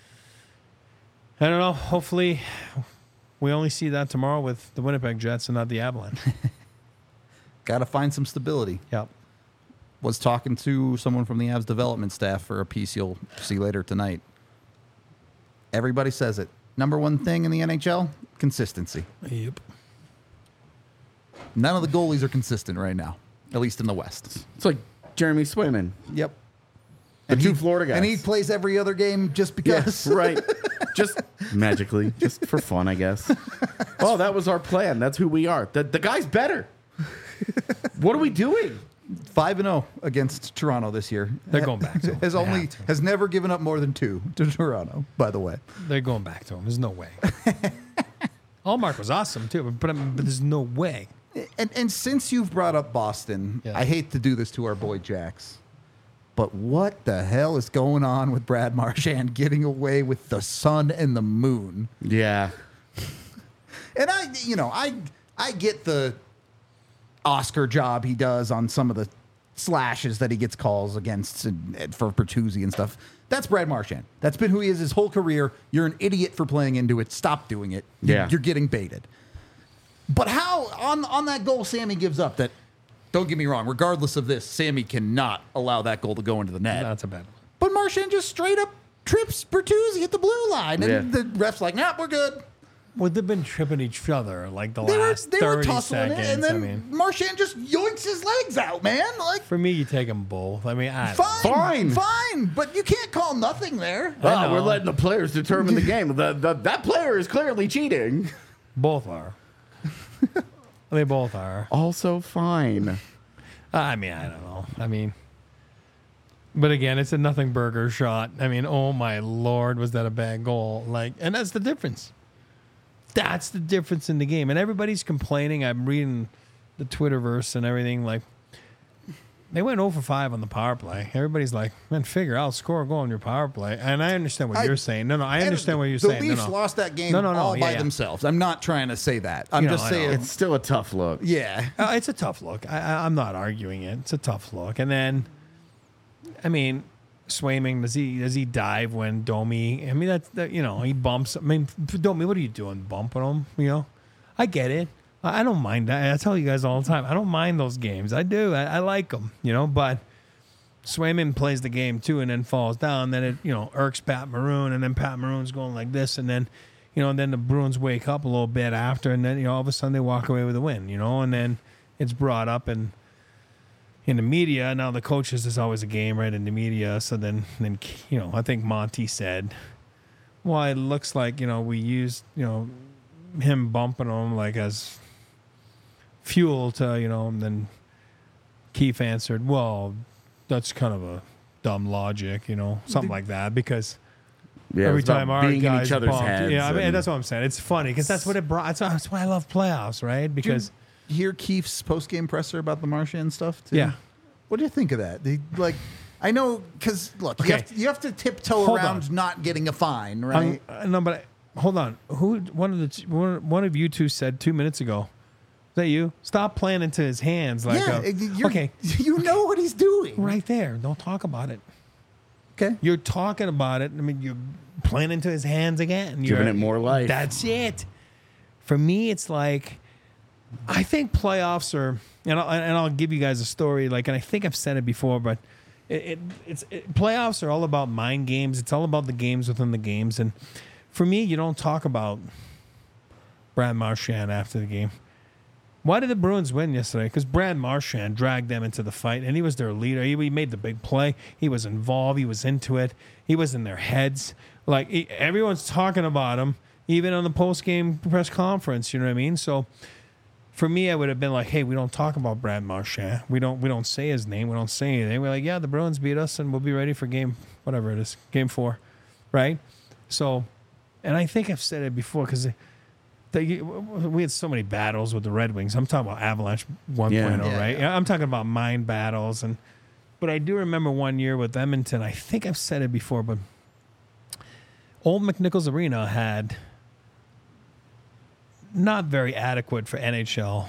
Speaker 2: I don't know. Hopefully we only see that tomorrow with the Winnipeg Jets and not the Avalanche.
Speaker 1: Got to find some stability.
Speaker 2: Yep.
Speaker 1: Was talking to someone from the Avs development staff for a piece you'll see later tonight. Everybody says it. Number one thing in the NHL, consistency.
Speaker 2: Yep.
Speaker 1: None of the goalies are consistent right now, at least in the West.
Speaker 3: it's like Jeremy Swayman.
Speaker 1: Yep.
Speaker 3: The two Florida guys.
Speaker 1: And he plays every other game just because.
Speaker 3: right. Just magically, just for fun, I guess. Oh, that was our plan. That's who we are. The guy's better. What are we doing?
Speaker 1: 5-0 against Toronto this year.
Speaker 2: They're going back to him.
Speaker 1: Has never given up more than 2 to Toronto, by the way.
Speaker 2: They're going back to him. There's no way. Allmark was awesome, too, but there's no way.
Speaker 1: And since you've brought up Boston,
Speaker 2: Yeah.
Speaker 1: I hate to do this to our boy Jax, but what the hell is going on with Brad Marchand getting away with the sun and the moon?
Speaker 3: Yeah.
Speaker 1: And I get the Oscar job he does on some of the slashes that he gets calls against and for Bertuzzi and stuff. That's Brad Marchand. That's been who he is his whole career. You're an idiot for playing into it. Stop doing it.
Speaker 3: Yeah.
Speaker 1: You're getting baited. But how on that goal Sammy gives up that, don't get me wrong, regardless of this, Sammy cannot allow that goal to go into the net.
Speaker 2: That's a bad one.
Speaker 1: But Marchand just straight up trips Bertuzzi at the blue line. And
Speaker 3: Yeah.
Speaker 1: the ref's like, nah, we're good.
Speaker 2: Well, they've been tripping each other like the
Speaker 1: They were
Speaker 2: last 30
Speaker 1: tussling it,
Speaker 2: seconds.
Speaker 1: and then
Speaker 2: I mean,
Speaker 1: Marchand just yoinks his legs out, man. Like,
Speaker 2: for me, you take them both. I mean, I don't know.
Speaker 1: fine, but you can't call nothing there.
Speaker 2: I know.
Speaker 3: We're letting the players determine the game. That player is clearly cheating.
Speaker 2: Both are. They both are.
Speaker 3: Also fine.
Speaker 2: I mean, I don't know. I mean, but again, it's a nothing burger shot. I mean, oh my Lord, was that a bad goal? Like, and that's the difference. That's the difference in the game. And everybody's complaining. I'm reading the Twitterverse and everything. Like, they went 0 for 5 on the power play. Everybody's like, man, figure out, score a goal on your power play. And I understand what you're saying. No, I understand what you're saying.
Speaker 1: The Leafs lost that game all by themselves. I'm not trying to say that. I'm
Speaker 2: You know,
Speaker 1: just
Speaker 2: I know.
Speaker 1: saying.
Speaker 3: It's still a tough look.
Speaker 1: Yeah.
Speaker 2: It's a tough look. I'm not arguing it. It's a tough look. And then, I mean, Swayman, does he dive when Domi? I mean, he bumps. I mean, Domi, what are you doing, bumping him? I get it. I don't mind that. I tell you guys all the time, I don't mind those games. I do. I like them, but Swayman plays the game too and then falls down. Then it, irks Pat Maroon, and then Pat Maroon's going like this, and then, then the Bruins wake up a little bit after, and then, all of a sudden they walk away with a win, and then it's brought up in the media. Now the coaches, is always a game, right, in the media. So then I think Monty said, well, it looks like, we used, him bumping him like as fuel to, and then Keefe answered, well, that's kind of a dumb logic, something like that, because
Speaker 3: Yeah,
Speaker 2: every
Speaker 3: it's about
Speaker 2: time our
Speaker 3: being in
Speaker 2: guys
Speaker 3: each other's
Speaker 2: bumped,
Speaker 3: heads.
Speaker 2: yeah, I mean,
Speaker 3: and-
Speaker 2: that's what I'm saying. It's funny because that's what it brought. That's why I love playoffs, right? Because
Speaker 1: Did you hear Keefe's post-game presser about the Marchand stuff too?
Speaker 2: Yeah.
Speaker 1: What do you think of that? I know because look,
Speaker 2: Okay.
Speaker 1: you have to tiptoe
Speaker 2: Hold
Speaker 1: around
Speaker 2: on.
Speaker 1: not getting a fine, right?
Speaker 2: No, but hold on. One of you two said 2 minutes ago? Is that you? Stop playing into his hands. Like okay,
Speaker 1: you know what he's doing,
Speaker 2: right there. Don't talk about it.
Speaker 1: Okay,
Speaker 2: You're talking about it. I mean, you're playing into his hands again.
Speaker 3: Giving it more life.
Speaker 2: That's it. For me, it's like I think playoffs are, and I'll give you guys a story. Like, and I think I've said it before, but playoffs are all about mind games. It's all about the games within the games. And for me, you don't talk about Brad Marchand after the game. Why did the Bruins win yesterday? Because Brad Marchand dragged them into the fight, and he was their leader. He made the big play. He was involved. He was into it. He was in their heads. Like, everyone's talking about him, even on the post-game press conference. You know what I mean? So, for me, I would have been like, hey, we don't talk about Brad Marchand. We don't say his name. We don't say anything. We're like, yeah, the Bruins beat us, and we'll be ready for game 4, right? So, and I think I've said it before because we had so many battles with the Red Wings. I'm talking about Avalanche 1.0,
Speaker 3: Yeah.
Speaker 2: right?
Speaker 1: Yeah.
Speaker 2: I'm talking about mind battles. But I do remember one year with Edmonton, I think I've said it before, but Old McNichols Arena had not very adequate for NHL.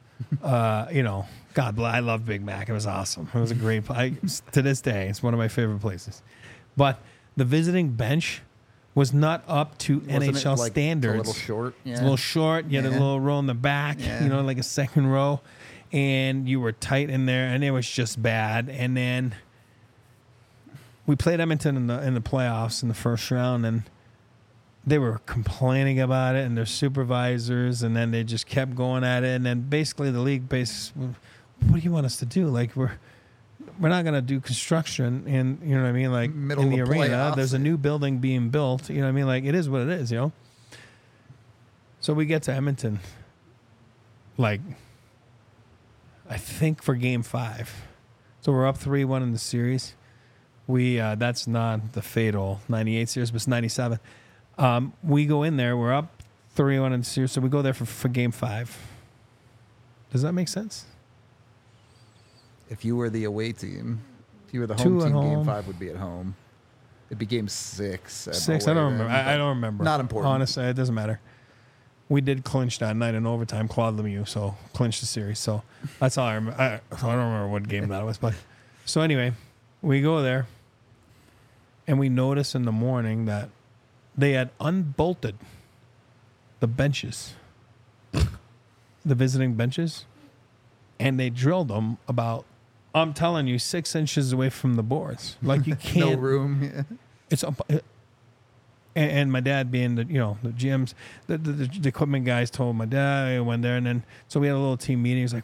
Speaker 2: God bless. I love Big Mac. It was awesome. It was a great to this day, it's one of my favorite places. But the visiting bench was not up to
Speaker 1: Wasn't it,
Speaker 2: NHL
Speaker 1: like,
Speaker 2: standards.
Speaker 1: A little short. Yeah.
Speaker 2: It's a little short. You had a
Speaker 1: Yeah.
Speaker 2: little row in the back,
Speaker 1: Yeah.
Speaker 2: like a second row. And you were tight in there, and it was just bad. And then we played Edmonton in the playoffs in the first round, and they were complaining about it and their supervisors, and then they just kept going at it. And then basically the league what do you want us to do? Like, we're not going to do construction in, you know what I mean? Like,
Speaker 1: Middle
Speaker 2: in the
Speaker 1: of the
Speaker 2: arena,
Speaker 1: playoffs.
Speaker 2: there's a new building being built. You know what I mean? Like, it is what it is, So we get to Edmonton, like, I think for game 5. So we're up 3-1 in the series. That's not the fatal 98 series, but it's 97. We go in there, we're up 3-1 in the series, so we go there for game 5. Does that make sense?
Speaker 1: If you were the away team, if you were the
Speaker 2: 2
Speaker 1: home
Speaker 2: at
Speaker 1: team,
Speaker 2: home.
Speaker 1: game 5 would be at home. It'd be game 6. at
Speaker 2: 6,
Speaker 1: away
Speaker 2: I don't
Speaker 1: then,
Speaker 2: remember. I
Speaker 1: but
Speaker 2: don't remember.
Speaker 1: Not important.
Speaker 2: Honestly, it doesn't matter. We did clinch that night in overtime, Claude Lemieux, so clinched the series. So that's all I remember. I don't remember what game that was, but so anyway, we go there, and we notice in the morning that they had unbolted the benches, the visiting benches, and they drilled them about, I'm telling you, 6 inches away from the boards. Like, you can't.
Speaker 1: No room. Yeah.
Speaker 2: It's up. And my dad being the GMs, the equipment guys told my dad. I went there, and then so we had a little team meeting. He's like,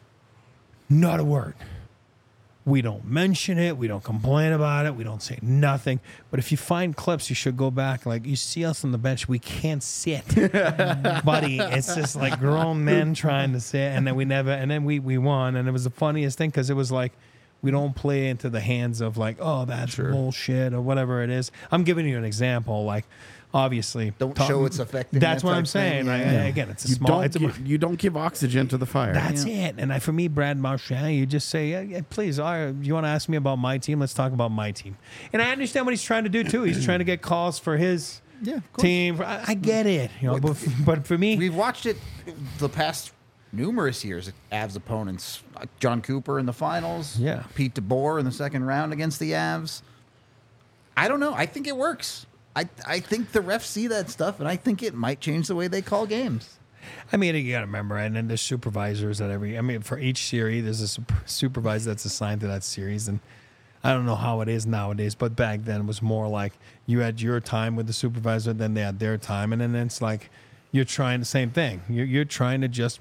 Speaker 2: not a word. We don't mention it. We don't complain about it. We don't say nothing. But if you find clips, you should go back. Like, you see us on the bench, we can't sit, buddy. It's just like grown men trying to sit, and then we won, and it was the funniest thing because it was like, we don't play into the hands of like, oh, that's bullshit or whatever it is. I'm giving you an example. Like, obviously,
Speaker 1: Don't show it's affecting.
Speaker 2: That's
Speaker 1: that
Speaker 2: what
Speaker 1: type
Speaker 2: I'm saying.
Speaker 1: thing.
Speaker 2: Like,
Speaker 1: Yeah.
Speaker 2: again, it's a
Speaker 3: You
Speaker 2: small.
Speaker 3: you don't give oxygen to the fire.
Speaker 2: That's it. And for me, Brad Marchand, you just say, yeah, please, you want to ask me about my team? Let's talk about my team. And I understand what he's trying to do too. He's trying to get calls for his
Speaker 1: Yeah, of course.
Speaker 2: team. I get it. But for me,
Speaker 1: We've watched it the past numerous years. Avs opponents, John Cooper in the finals.
Speaker 2: Yeah.
Speaker 1: Pete DeBoer in the second round against the Avs. I don't know. I think it works. I think the refs see that stuff, and I think it might change the way they call games.
Speaker 2: I mean, you got to remember, and then there's supervisors at for each series, there's a supervisor that's assigned to that series. And I don't know how it is nowadays, but back then it was more like you had your time with the supervisor, then they had their time. And then it's like, you're trying the same thing. You're trying to just,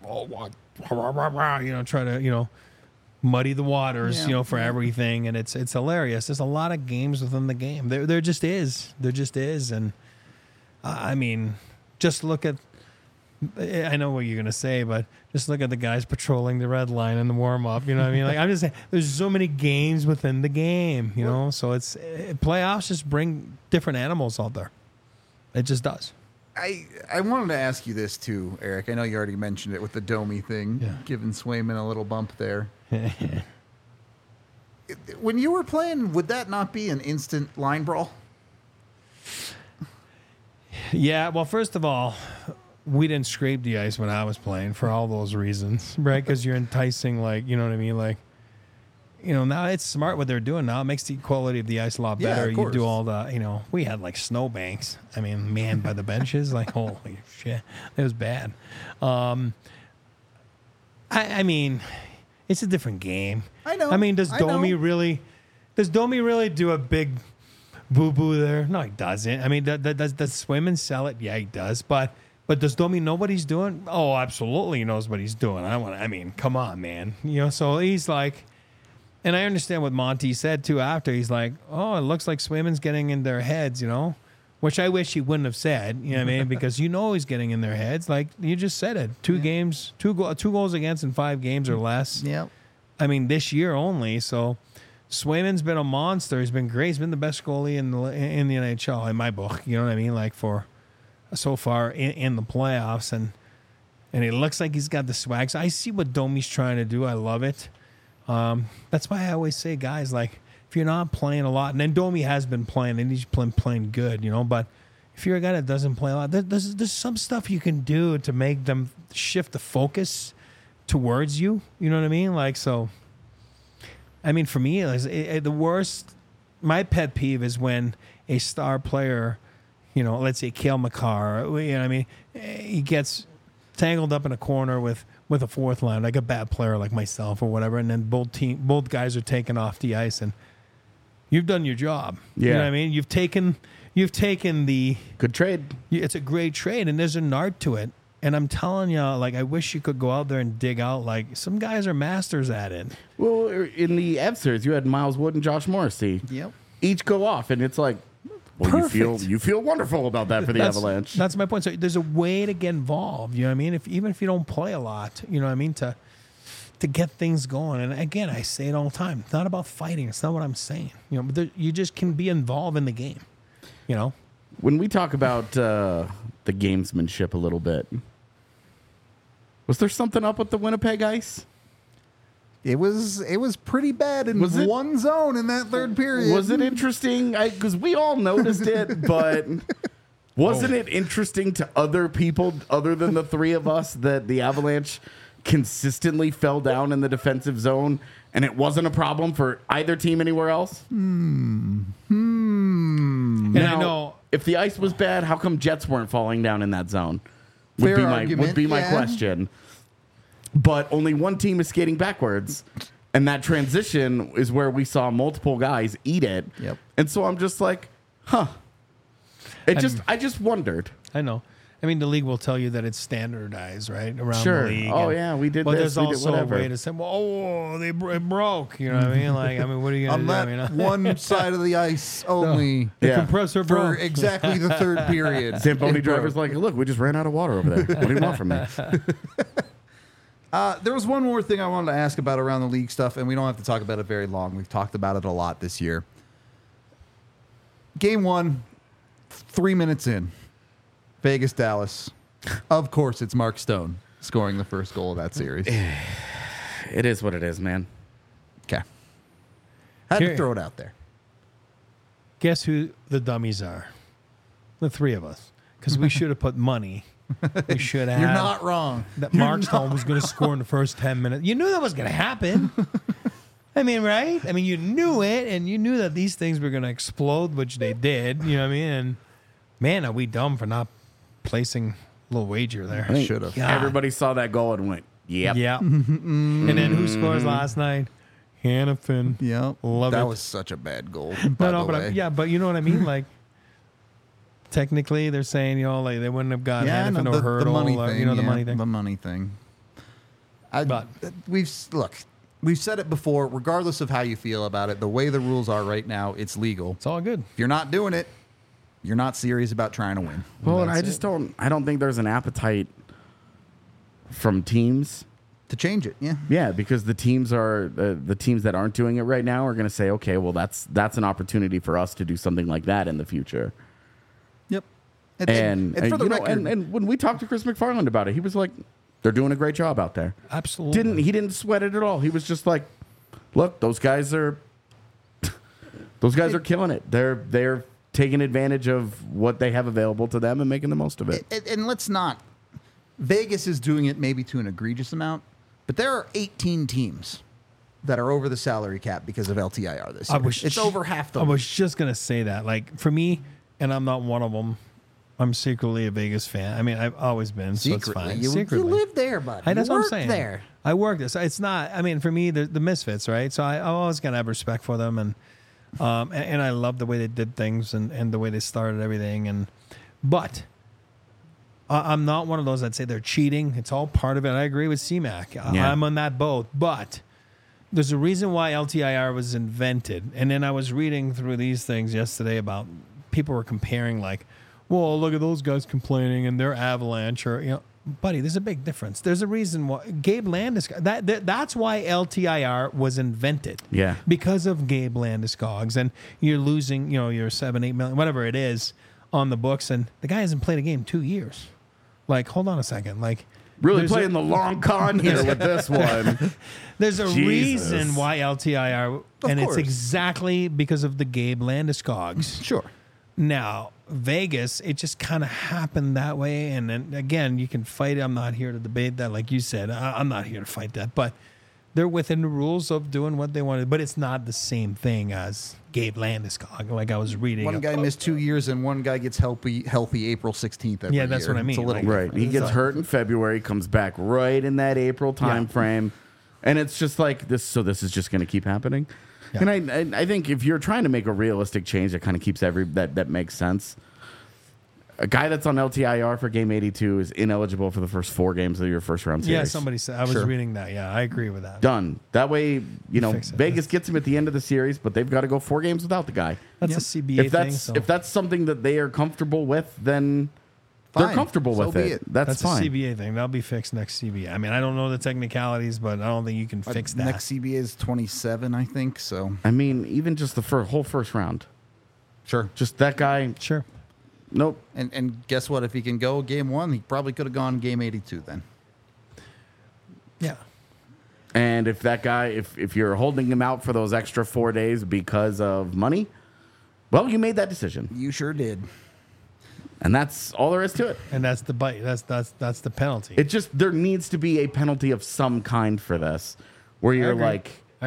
Speaker 2: try to, muddy the waters,
Speaker 1: Yeah.
Speaker 2: for everything. And it's hilarious. There's a lot of games within the game. There just is. There just is. And I mean, just look at, I know what you're going to say, but just look at the guys patrolling the red line in the warm up. You know what I mean? Like, I'm just saying, there's so many games within the game, so it's playoffs just bring different animals out there. It just does.
Speaker 1: I wanted to ask you this too, Eric. I know you already mentioned it with the Domi thing,
Speaker 2: Yeah.
Speaker 1: giving Swayman a little bump there. when you were playing, would that not be an instant line brawl?
Speaker 2: Yeah, well, first of all, we didn't scrape the ice when I was playing for all those reasons, right? Because you're enticing, like, you know what I mean? Like, you know, now it's smart what they're doing now. It makes the quality of the ice a lot
Speaker 1: Yeah,
Speaker 2: better.
Speaker 1: of
Speaker 2: You do
Speaker 1: course.
Speaker 2: all the, you know, we had like snowbanks. I mean, manned by the benches. Like, holy shit. It was bad. I mean, it's a different game.
Speaker 1: I know.
Speaker 2: I mean, does
Speaker 1: I know.
Speaker 2: Domi really do a big boo-boo there? No, he doesn't. I mean, does Swim and sell it? Yeah, he does. But does Domi know what he's doing? Oh, absolutely he knows what he's doing. I mean, come on, man. You know, so he's like, and I understand what Monty said too after. He's like, oh, it looks like Swayman's getting in their heads, you know, which I wish he wouldn't have said, you know what I mean? Because you know he's getting in their heads. Like you just said it. Two goals against in 5 games or less.
Speaker 1: Yep.
Speaker 2: I mean, this year only. So Swayman's been a monster. He's been great. He's been the best goalie in the NHL in my book. You know what I mean? Like for so far in the playoffs, and it looks like he's got the swag. So I see what Domi's trying to do. I love it. That's why I always say, guys, like if you're not playing a lot, and then Domi has been playing, and he's playing good, you know. But if you're a guy that doesn't play a lot, there's some stuff you can do to make them shift the focus towards you. You know what I mean? Like so. I mean, for me, the worst. My pet peeve is when a star player, you know, let's say Cale Makar, you know what I mean, he gets tangled up in a corner with a fourth line, like a bad player like myself or whatever, and then both guys are taken off the ice, and you've done your job.
Speaker 3: Yeah.
Speaker 2: You know what I mean? You've taken the
Speaker 3: Good trade.
Speaker 2: it's a great trade, and there's an art to it. And I'm telling you, like, I wish you could go out there and dig out. Like, some guys are masters at it.
Speaker 3: Well, in the Ev series, you had Miles Wood and Josh Morrissey.
Speaker 1: Yep.
Speaker 3: Each go off, and it's like, well,
Speaker 2: Perfect.
Speaker 3: you feel wonderful about that for the Avalanche.
Speaker 2: That's my point. So there's a way to get involved. You know what I mean? Even if you don't play a lot, you know what I mean, to get things going. And again, I say it all the time. It's not about fighting. It's not what I'm saying. You know, but you just can be involved in the game. You know.
Speaker 3: When we talk about the gamesmanship a little bit, was there something up with the Winnipeg Ice?
Speaker 1: It was pretty bad in
Speaker 3: Was it-
Speaker 1: one zone in that third period.
Speaker 3: Was it interesting? Because we all noticed it, but wasn't it interesting to other people other than the three of us that the Avalanche consistently fell down in the defensive zone and it wasn't a problem for either team anywhere else?
Speaker 2: And
Speaker 3: Now,
Speaker 2: I know.
Speaker 3: if the ice was bad, how come Jets weren't falling down in that zone?
Speaker 1: Fair
Speaker 3: Would
Speaker 1: argument,
Speaker 3: be my
Speaker 1: yeah.
Speaker 3: question. But only one team is skating backwards, and that transition is where we saw multiple guys eat it.
Speaker 1: Yep.
Speaker 3: And so I'm just like, huh. I just wondered.
Speaker 2: I know. I mean, the league will tell you that it's standardized, right, around
Speaker 3: Sure.
Speaker 2: the league.
Speaker 3: Oh,
Speaker 2: and-
Speaker 3: yeah, we did
Speaker 2: But
Speaker 3: this,
Speaker 2: there's
Speaker 3: we did
Speaker 2: also
Speaker 3: whatever.
Speaker 2: a way to say, well, oh, it broke. You know what I mean? Like, I mean, what are you
Speaker 1: on
Speaker 2: going to
Speaker 1: that
Speaker 2: do? I mean,
Speaker 1: one side of the ice only
Speaker 2: the
Speaker 3: Yeah.
Speaker 2: compressor
Speaker 1: for
Speaker 2: broke.
Speaker 1: exactly the third period.
Speaker 3: Zamboni
Speaker 1: It broke.
Speaker 3: driver's like, look, we just ran out of water over there. What do you want from me?
Speaker 1: There was one more thing I wanted to ask about around the league stuff, and we don't have to talk about it very long. We've talked about it a lot this year. Game 1, 3 minutes in, Vegas, Dallas. Of course, it's Mark Stone scoring the first goal of that series.
Speaker 3: It is what it is, man.
Speaker 1: Okay. Had to
Speaker 2: Here-
Speaker 1: throw it out there.
Speaker 2: Guess who the dummies are? The three of us. Because we should have put money. We should have.
Speaker 1: You're not wrong.
Speaker 2: That Mark Stone was going to score in the first 10 minutes. You knew that was going to happen. I mean, right? I mean, you knew it, and you knew that these things were going to explode, which they did. You know what I mean? And man, are we dumb for not placing a little wager there?
Speaker 3: I think
Speaker 1: Should have.
Speaker 2: God.
Speaker 3: Everybody saw that goal and went, yep.
Speaker 2: Yeah. And then who scores last night? Hannafin.
Speaker 1: Yep.
Speaker 2: Love
Speaker 1: that
Speaker 2: it.
Speaker 1: was such a bad goal.
Speaker 2: No, but but you know what I mean? Like, technically, they're saying, you know, like they wouldn't have gotten
Speaker 1: yeah,
Speaker 2: Hannafin
Speaker 1: no,
Speaker 2: or
Speaker 1: the
Speaker 2: Hurdle.
Speaker 1: money
Speaker 2: or,
Speaker 1: thing.
Speaker 2: you know, the
Speaker 1: yeah,
Speaker 2: money thing.
Speaker 1: The money thing.
Speaker 2: But-
Speaker 1: We've said it before. Regardless of how you feel about it, the way the rules are right now, it's legal.
Speaker 2: It's all good.
Speaker 1: If you're not doing it, you're not serious about trying to win.
Speaker 3: Well, and
Speaker 2: That's
Speaker 3: I just
Speaker 2: it.
Speaker 3: I don't think there's an appetite from teams.
Speaker 1: To change it, yeah.
Speaker 3: Yeah, because the teams that aren't doing it right now are going to say, okay, well, that's an opportunity for us to do something like that in the future.
Speaker 1: Yep.
Speaker 3: And
Speaker 1: for the
Speaker 3: you know,
Speaker 1: record,
Speaker 3: and when we talked to Chris McFarland about it, he was like, they're doing a great job out there.
Speaker 2: Absolutely.
Speaker 3: He didn't sweat it at all. He was just like, look, those guys are Those guys are killing it. They're taking advantage of what they have available to them and making the most of it.
Speaker 1: And let's not. Vegas is doing it maybe to an egregious amount, but there are 18 teams that are over the salary cap because of LTIR this year. It's over half the
Speaker 2: I was just going to say that. Like, for me, and I'm not one of them, I'm secretly a Vegas fan. I mean, I've always been, so it's fine.
Speaker 1: You live there, buddy.
Speaker 2: That's
Speaker 1: you
Speaker 2: what I'm
Speaker 1: work
Speaker 2: saying.
Speaker 1: there.
Speaker 2: I work there. So it's not, I mean, for me, the misfits, right? So I'm always going to have respect for them. And I love the way they did things and the way they started everything. But I'm not one of those that say they're cheating. It's all part of it. I agree with CMAC.
Speaker 3: Yeah.
Speaker 2: I'm on that boat. But there's a reason why LTIR was invented. And then I was reading through these things yesterday about people were comparing, like, well, look at those guys complaining and they're Avalanche, or, you know, buddy, there's a big difference. There's a reason why Gabe Landeskog, that's why LTIR was invented.
Speaker 3: Yeah.
Speaker 2: Because of Gabe Landeskog's, and you're losing, you know, your 7-8 million, whatever it is, on the books, and the guy hasn't played a game in 2 years. Like, hold on a second. Like,
Speaker 3: Really playing the long con here with this one.
Speaker 2: there's a
Speaker 3: Jesus.
Speaker 2: reason why LTIR, and
Speaker 1: course.
Speaker 2: it's exactly because of the Gabe Landeskog's.
Speaker 1: Sure.
Speaker 2: Now, Vegas, it just kind of happened that way. And then again, you can fight it. I'm not here to debate that. Like you said, I'm not here to fight that. But they're within the rules of doing what they wanted. But it's not the same thing as Gabe Landeskog, like I was reading.
Speaker 1: One guy missed 2 years, and one guy gets healthy April 16th every
Speaker 2: Yeah, that's
Speaker 1: year.
Speaker 2: what I mean.
Speaker 1: It's a little
Speaker 2: Like,
Speaker 3: Right. He gets hurt in February, comes back right in that April time frame. And it's just like this. So this is just going to keep happening.
Speaker 2: Yeah.
Speaker 3: And I think if you're trying to make a realistic change, that kind of keeps that makes sense. A guy that's on LTIR for game 82 is ineligible for the first 4 games of your first round series.
Speaker 2: Yeah, somebody said. I was reading that. Yeah, I agree with that.
Speaker 3: Done. That way, you know,
Speaker 2: Fix it.
Speaker 3: Vegas gets him at the end of the series, but they've got to go 4 games without the guy.
Speaker 2: That's a CBA thing. So.
Speaker 3: If that's something that they are comfortable with, then
Speaker 1: Fine.
Speaker 3: they're comfortable
Speaker 1: So
Speaker 3: with
Speaker 1: be
Speaker 3: it.
Speaker 1: it.
Speaker 3: That's
Speaker 2: a
Speaker 3: fine.
Speaker 2: CBA thing. That'll be fixed next CBA. I mean, I don't know the technicalities, but I don't think you can fix that.
Speaker 1: Next CBA is 27, I think. So
Speaker 3: I mean, even just the whole first round.
Speaker 1: sure.
Speaker 3: Just that guy.
Speaker 2: Sure.
Speaker 3: Nope.
Speaker 1: And guess what? If he can go game 1, he probably could have gone game 82 then.
Speaker 2: Yeah.
Speaker 3: And if that guy, if you're holding him out for those extra 4 days because of money, well, you made that decision,
Speaker 1: You sure did.
Speaker 3: and that's all there is to it.
Speaker 2: And that's the bite. That's the penalty.
Speaker 3: It just there needs to be a penalty of some kind for this, where you're
Speaker 2: agree.
Speaker 3: like,
Speaker 2: I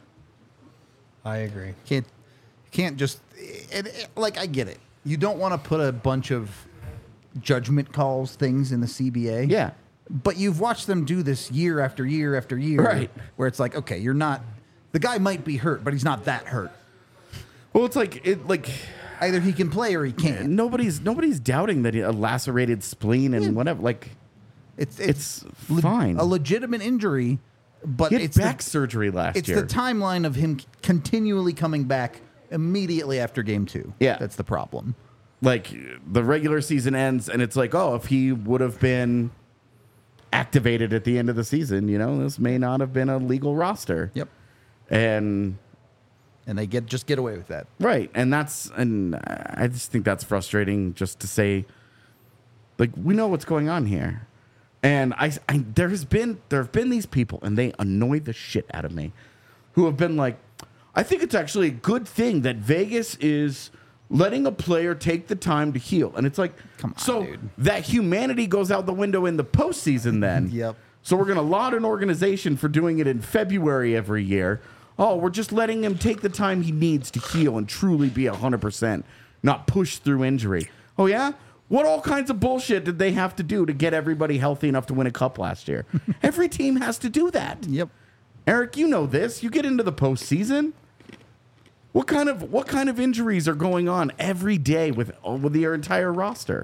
Speaker 2: agree.
Speaker 1: Can't just like I get it. You don't want to put a bunch of judgment calls things in the CBA.
Speaker 3: yeah,
Speaker 1: But you've watched them do this year after year after year.
Speaker 3: Right.
Speaker 1: Where it's like, okay, you're not the guy might be hurt, but he's not that hurt.
Speaker 3: well, it's like
Speaker 1: Either he can play or he can't.
Speaker 3: nobody's doubting that a lacerated spleen and whatever. Like it's fine.
Speaker 1: A legitimate injury, but
Speaker 3: he had
Speaker 1: it's
Speaker 3: back surgery last
Speaker 1: it's
Speaker 3: year.
Speaker 1: the timeline of him continually coming back immediately after game 2.
Speaker 3: Yeah.
Speaker 1: That's the problem.
Speaker 3: Like the regular season ends, and it's like, oh, if he would have been activated at the end of the season, you know, this may not have been a legal roster.
Speaker 1: Yep.
Speaker 3: And
Speaker 1: They just get away with that.
Speaker 3: right, and I just think that's frustrating. Just to say, like, we know what's going on here, and there have been these people, and they annoy the shit out of me, who have been like, I think it's actually a good thing that Vegas is letting a player take the time to heal. And it's like,
Speaker 1: Come on,
Speaker 3: so
Speaker 1: dude.
Speaker 3: that humanity goes out the window in the postseason then.
Speaker 1: Yep.
Speaker 3: So we're going to laud an organization for doing it in February every year. Oh, we're just letting him take the time he needs to heal and truly be 100%, not push through injury. Oh, yeah? What all kinds of bullshit did they have to do to get everybody healthy enough to win a cup last year? Every team has to do that.
Speaker 1: Yep.
Speaker 3: Eric, you know this. You get into the postseason. What kind of injuries are going on every day with your entire roster?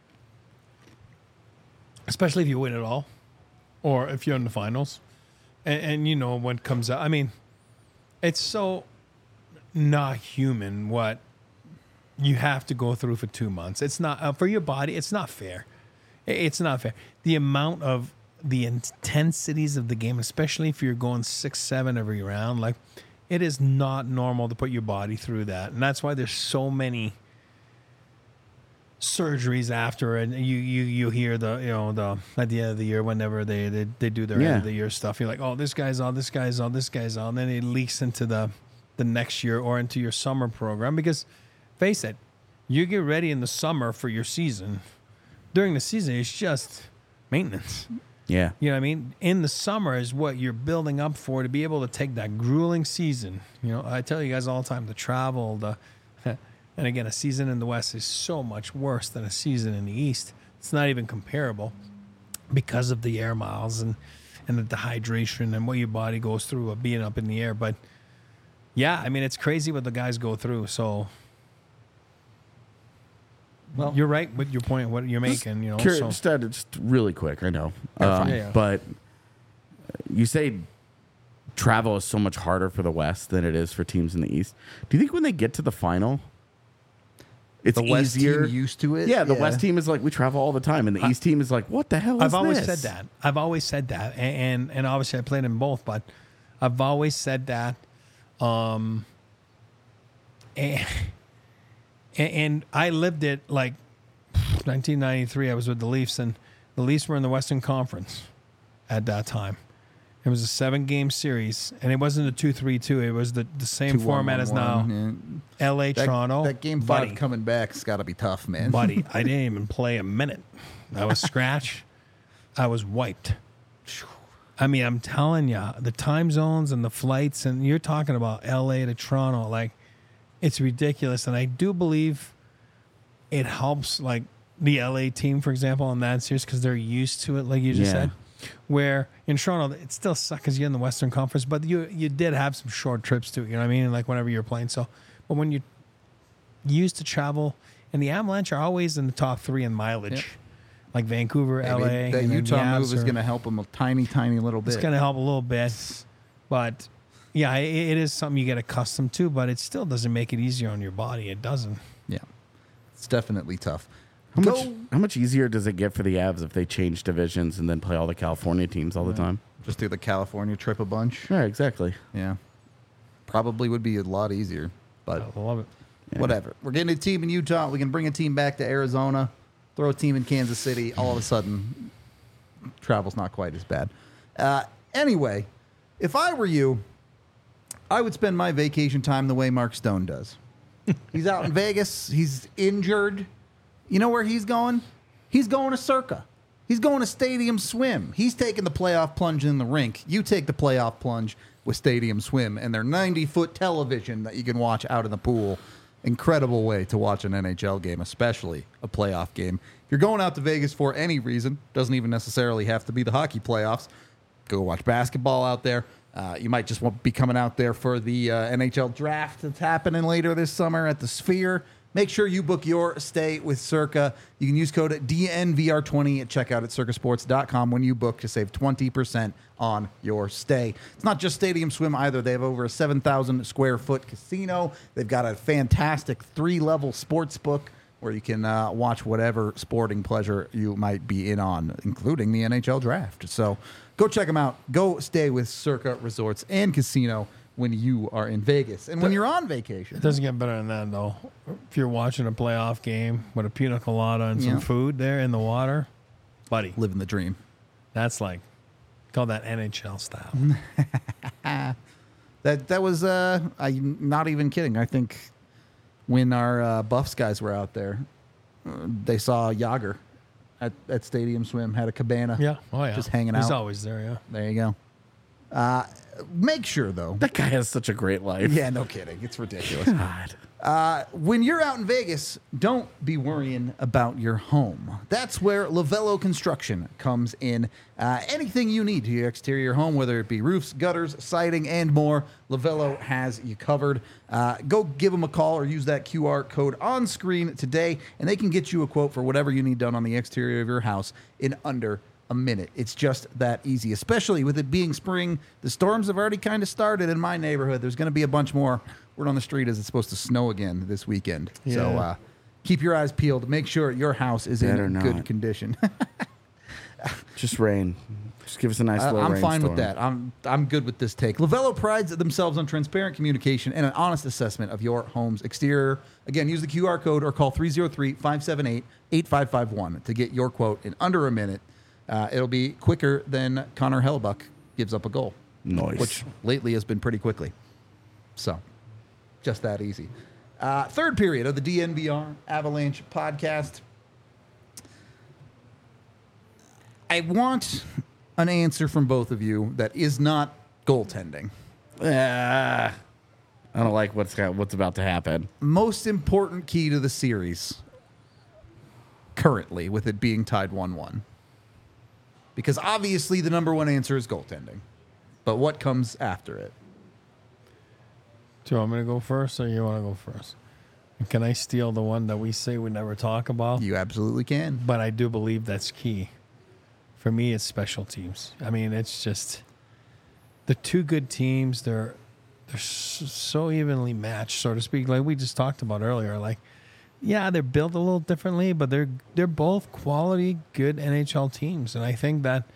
Speaker 2: Especially if you win it all, or if you're in the finals, and you know what comes out. I mean, it's so not human what you have to go through for 2 months. It's not for your body. It's not fair. It's not fair. The amount of the intensities of the game, especially if you're going 6-7 every round, like it is not normal to put your body through that, and that's why there's so many surgeries after, and you hear the at the end of the year whenever they do their end of the year stuff. You're like, oh, this guy's on, then it leaks into the the next year or into your summer program. Because face it, you get ready in the summer for your season. During the season, it's just maintenance.
Speaker 3: Yeah.
Speaker 2: You know what I mean? In the summer is what you're building up for to be able to take that grueling season. You know, I tell you guys all the time, the travel, and again, a season in the West is so much worse than a season in the East. It's not even comparable because of the air miles and the dehydration and what your body goes through of being up in the air. But yeah, I mean, it's crazy what the guys go through. So, well, you're right with your point, what you're making, you know.
Speaker 3: Just really quick, I know.
Speaker 2: Yeah.
Speaker 3: But you say travel is so much harder for the West than it is for teams in the East. Do you think when they get to the final, it's
Speaker 1: The West
Speaker 3: easier?
Speaker 1: team used to it?
Speaker 3: Yeah, the West team is like, we travel all the time, and the East team is like, what the hell is
Speaker 2: I've always
Speaker 3: this?
Speaker 2: said that. And obviously I played in both, but I've always said that. And I lived it like 1993. I was with the Leafs, and the Leafs were in the Western Conference at that time. It was a 7-game series, and it wasn't a 2-3-2. It was the same
Speaker 1: 2-1-1-1,
Speaker 2: format as now.
Speaker 1: yeah.
Speaker 2: LA, Toronto.
Speaker 1: That game 5
Speaker 2: buddy,
Speaker 1: coming back's got to be tough, man.
Speaker 2: buddy, I didn't even play a minute. I was scratched. I was wiped. I mean, I'm telling you, the time zones and the flights, and you're talking about LA to Toronto, like, it's ridiculous. And I do believe it helps, like, the LA team, for example, in that series, because they're used to it, like you just said. Where in Toronto, it still sucks because you're in the Western Conference, but you did have some short trips too, you know what I mean? Like, whenever you're playing. So, but when you're used to travel, and the Avalanche are always in the top 3 in mileage.
Speaker 1: Yep.
Speaker 2: Like Vancouver,
Speaker 1: Maybe
Speaker 2: LA.
Speaker 1: that
Speaker 2: and then
Speaker 1: Utah
Speaker 2: the
Speaker 1: move
Speaker 2: Avs
Speaker 1: is
Speaker 2: are-
Speaker 1: going to help them a tiny, tiny little bit.
Speaker 2: It's going to help a little bit, but yeah, it is something you get accustomed to, but it still doesn't make it easier on your body. It doesn't.
Speaker 1: Yeah, it's definitely tough.
Speaker 3: How much easier does it get for the Avs if they change divisions and then play all the California teams all the time?
Speaker 1: Just do the California trip a bunch.
Speaker 3: Yeah, exactly.
Speaker 1: Yeah, probably would be a lot easier, but
Speaker 2: I love it.
Speaker 1: whatever. We're getting a team in Utah. We can bring a team back to Arizona, throw a team in Kansas City. All of a sudden, travel's not quite as bad. Anyway, if I were you, I would spend my vacation time the way Mark Stone does. He's out in Vegas. He's injured. You know where he's going? He's going to Circa. He's going to Stadium Swim. He's taking the playoff plunge in the rink. You take the playoff plunge with Stadium Swim and their 90-foot television that you can watch out in the pool. Incredible way to watch an NHL game, especially a playoff game. If you're going out to Vegas for any reason, doesn't even necessarily have to be the hockey playoffs, go watch basketball out there. You might just want to be coming out there for the NHL draft that's happening later this summer at the Sphere. Make sure you book your stay with Circa. You can use code DNVR20 at checkout at circasports.com when you book to save 20% on your stay. It's not just Stadium Swim either. They have over a 7,000 square foot casino. They've got a fantastic 3-level sports book where you can watch whatever sporting pleasure you might be in on, including the NHL draft. So go check them out. Go stay with Circa Resorts and Casino when you are in Vegas and when you're on vacation.
Speaker 2: It doesn't get better than that, though. If you're watching a playoff game with a pina colada and some
Speaker 1: Yeah.
Speaker 2: food there in the water, buddy,
Speaker 1: Living the dream.
Speaker 2: that's like, call that NHL style.
Speaker 1: That was I'm not even kidding. I think when our Buffs guys were out there, they saw Yager at Stadium Swim, had a cabana.
Speaker 2: Yeah. Oh, yeah.
Speaker 1: Just hanging
Speaker 2: He's
Speaker 1: out.
Speaker 2: always there, yeah.
Speaker 1: There you go. Make sure though.
Speaker 3: That guy has such a great life.
Speaker 1: Yeah, no kidding. It's ridiculous.
Speaker 3: God.
Speaker 1: When you're out in Vegas, don't be worrying about your home. That's where Lavello Construction comes in. Anything you need to your exterior home, whether it be roofs, gutters, siding, and more, Lavello has you covered. Go give them a call or use that QR code on screen today, and they can get you a quote for whatever you need done on the exterior of your house in under a minute. It's just that easy, especially with it being spring. The storms have already kind of started in my neighborhood. There's going to be a bunch more. Word on the street is it's supposed to snow again this weekend.
Speaker 2: Yeah.
Speaker 1: So keep your eyes peeled. Make sure your house is
Speaker 3: Better
Speaker 1: in
Speaker 3: not.
Speaker 1: good condition.
Speaker 3: Just rain. Just give us a nice little
Speaker 1: I'm fine with
Speaker 3: rainstorm.
Speaker 1: that. I'm good with this take. Lavello prides themselves on transparent communication and an honest assessment of your home's exterior. Again, use the QR code or call 303-578-8551 to get your quote in under a minute. It'll be quicker than Connor Hellebuck gives up a goal.
Speaker 3: Nice.
Speaker 1: Which lately has been pretty quickly. So Just that easy. Third period of the DNVR Avalanche podcast. I want an answer from both of you that is not goaltending.
Speaker 3: I don't like what's about to happen.
Speaker 1: Most important key to the series currently, with it being tied 1-1. Because obviously the number one answer is goaltending. But what comes after it?
Speaker 2: Do you want me to go first or you want to go first? And can I steal the one that we say we never talk about?
Speaker 1: You absolutely can.
Speaker 2: But I do believe that's key. For me, it's special teams. I mean, it's just the two good teams. They're so evenly matched, so to speak. Like we just talked about earlier. Like, yeah, they're built a little differently, but they're both quality, good NHL teams. And I think that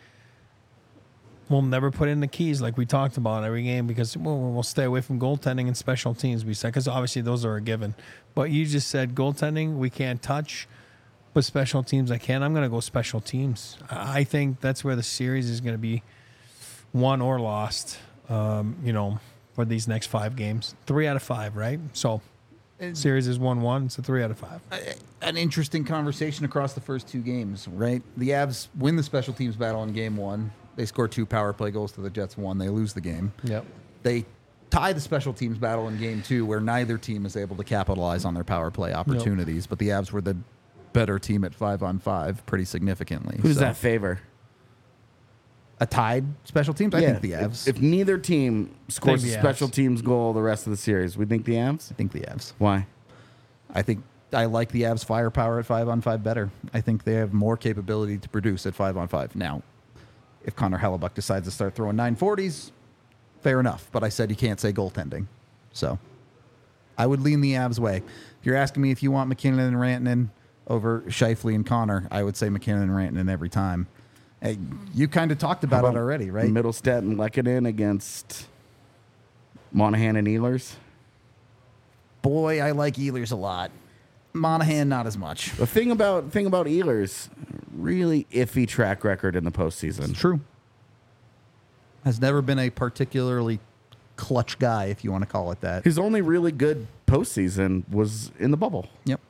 Speaker 2: we'll never put in the keys like we talked about every game because we'll stay away from goaltending and special teams. We said because obviously those are a given. But you just said goaltending we can't touch. But special teams, I can. I'm going to go special teams. I think that's where the series is going to be won or lost, for these next 5 games. 3 out of 5, right? So, series is 1-1. So 3 out of 5.
Speaker 1: An interesting conversation across the first 2 games, right? The Avs win the special teams battle in game 1. They score 2 power play goals to the Jets 1. They lose the game.
Speaker 2: Yep.
Speaker 1: They tie the special teams battle in game 2, where neither team is able to capitalize on their power play opportunities. But the Avs were the better team at 5-on-5 pretty significantly.
Speaker 3: Who does that favor?
Speaker 1: A tied special teams? I think the Avs.
Speaker 3: If neither team scores a
Speaker 2: the
Speaker 3: special
Speaker 2: Avs.
Speaker 3: teams goal the rest of the series, we think the Avs?
Speaker 1: I think the Avs.
Speaker 3: Why?
Speaker 1: I think I like the Avs' firepower at 5-on-5 better. I think they have more capability to produce at 5-on-5. Now, if Connor Hellebuck decides to start throwing 940s, fair enough. But I said you can't say goaltending. So I would lean the Avs' way. If you're asking me if you want McKinnon and Rantanen over Scheifele and Connor, I would say McKinnon and Rantanen every time. Hey, you kind of talked about it already, right?
Speaker 3: Middlestat and Lehkonen against Monahan and Ehlers.
Speaker 1: Boy, I like Ehlers a lot. Monahan, not as much.
Speaker 3: The thing about Ehlers, really iffy track record in the postseason.
Speaker 1: True. Has never been a particularly clutch guy, if you want to call it that.
Speaker 3: His only really good postseason was in the bubble.
Speaker 1: Yep.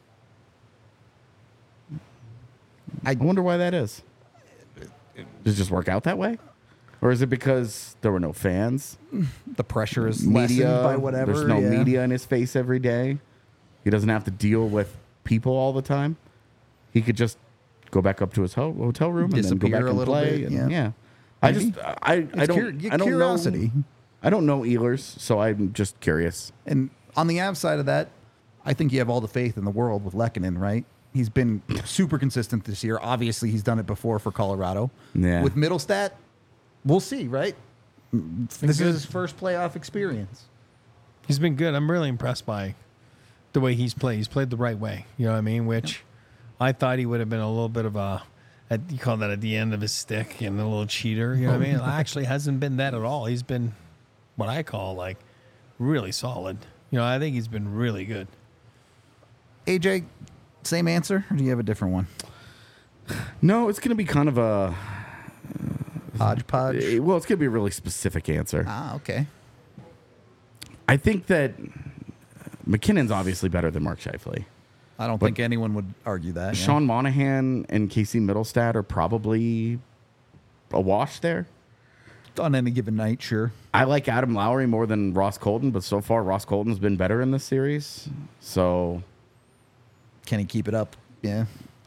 Speaker 3: I wonder why that is. Does it just work out that way? Or is it because there were no fans?
Speaker 1: The pressure is
Speaker 3: Media,
Speaker 1: lessened by whatever.
Speaker 3: There's no media in his face every day. He doesn't have to deal with people all the time. He could just go back up to his hotel room and then go
Speaker 1: Disappear
Speaker 3: back
Speaker 1: a
Speaker 3: and
Speaker 1: little
Speaker 3: play.
Speaker 1: bit,
Speaker 3: And,
Speaker 1: yeah.
Speaker 3: I
Speaker 1: Maybe.
Speaker 3: just I don't
Speaker 1: Curiosity.
Speaker 3: know. I don't know Ehlers, so I'm just curious.
Speaker 1: And on the Avs side of that, I think you have all the faith in the world with Lehkonen, right? He's been super consistent this year. Obviously, he's done it before for Colorado.
Speaker 3: Yeah.
Speaker 1: With Middlestat, we'll see, right? This is his first playoff experience.
Speaker 2: He's been good. I'm really impressed by the way he's played. He's played the right way. You know what I mean? Which I thought he would have been a little bit of you call that at the end of his stick and a little cheater. You know what I mean? It actually hasn't been that at all. He's been what I call like really solid. You know, I think he's been really good.
Speaker 1: AJ, same answer, or do you have a different one?
Speaker 3: No, it's going to be kind of a
Speaker 1: Hodgepodge.
Speaker 3: well, it's going to be a really specific answer.
Speaker 1: Ah, okay.
Speaker 3: I think that McKinnon's obviously better than Mark Scheifele.
Speaker 1: I don't think anyone would argue that. yeah.
Speaker 3: Sean Monahan and Casey Middlestat are probably a wash there.
Speaker 1: On any given night, sure.
Speaker 3: I like Adam Lowry more than Ross Colton, but so far Ross Colton's been better in this series. So
Speaker 1: Can he keep it up? Yeah.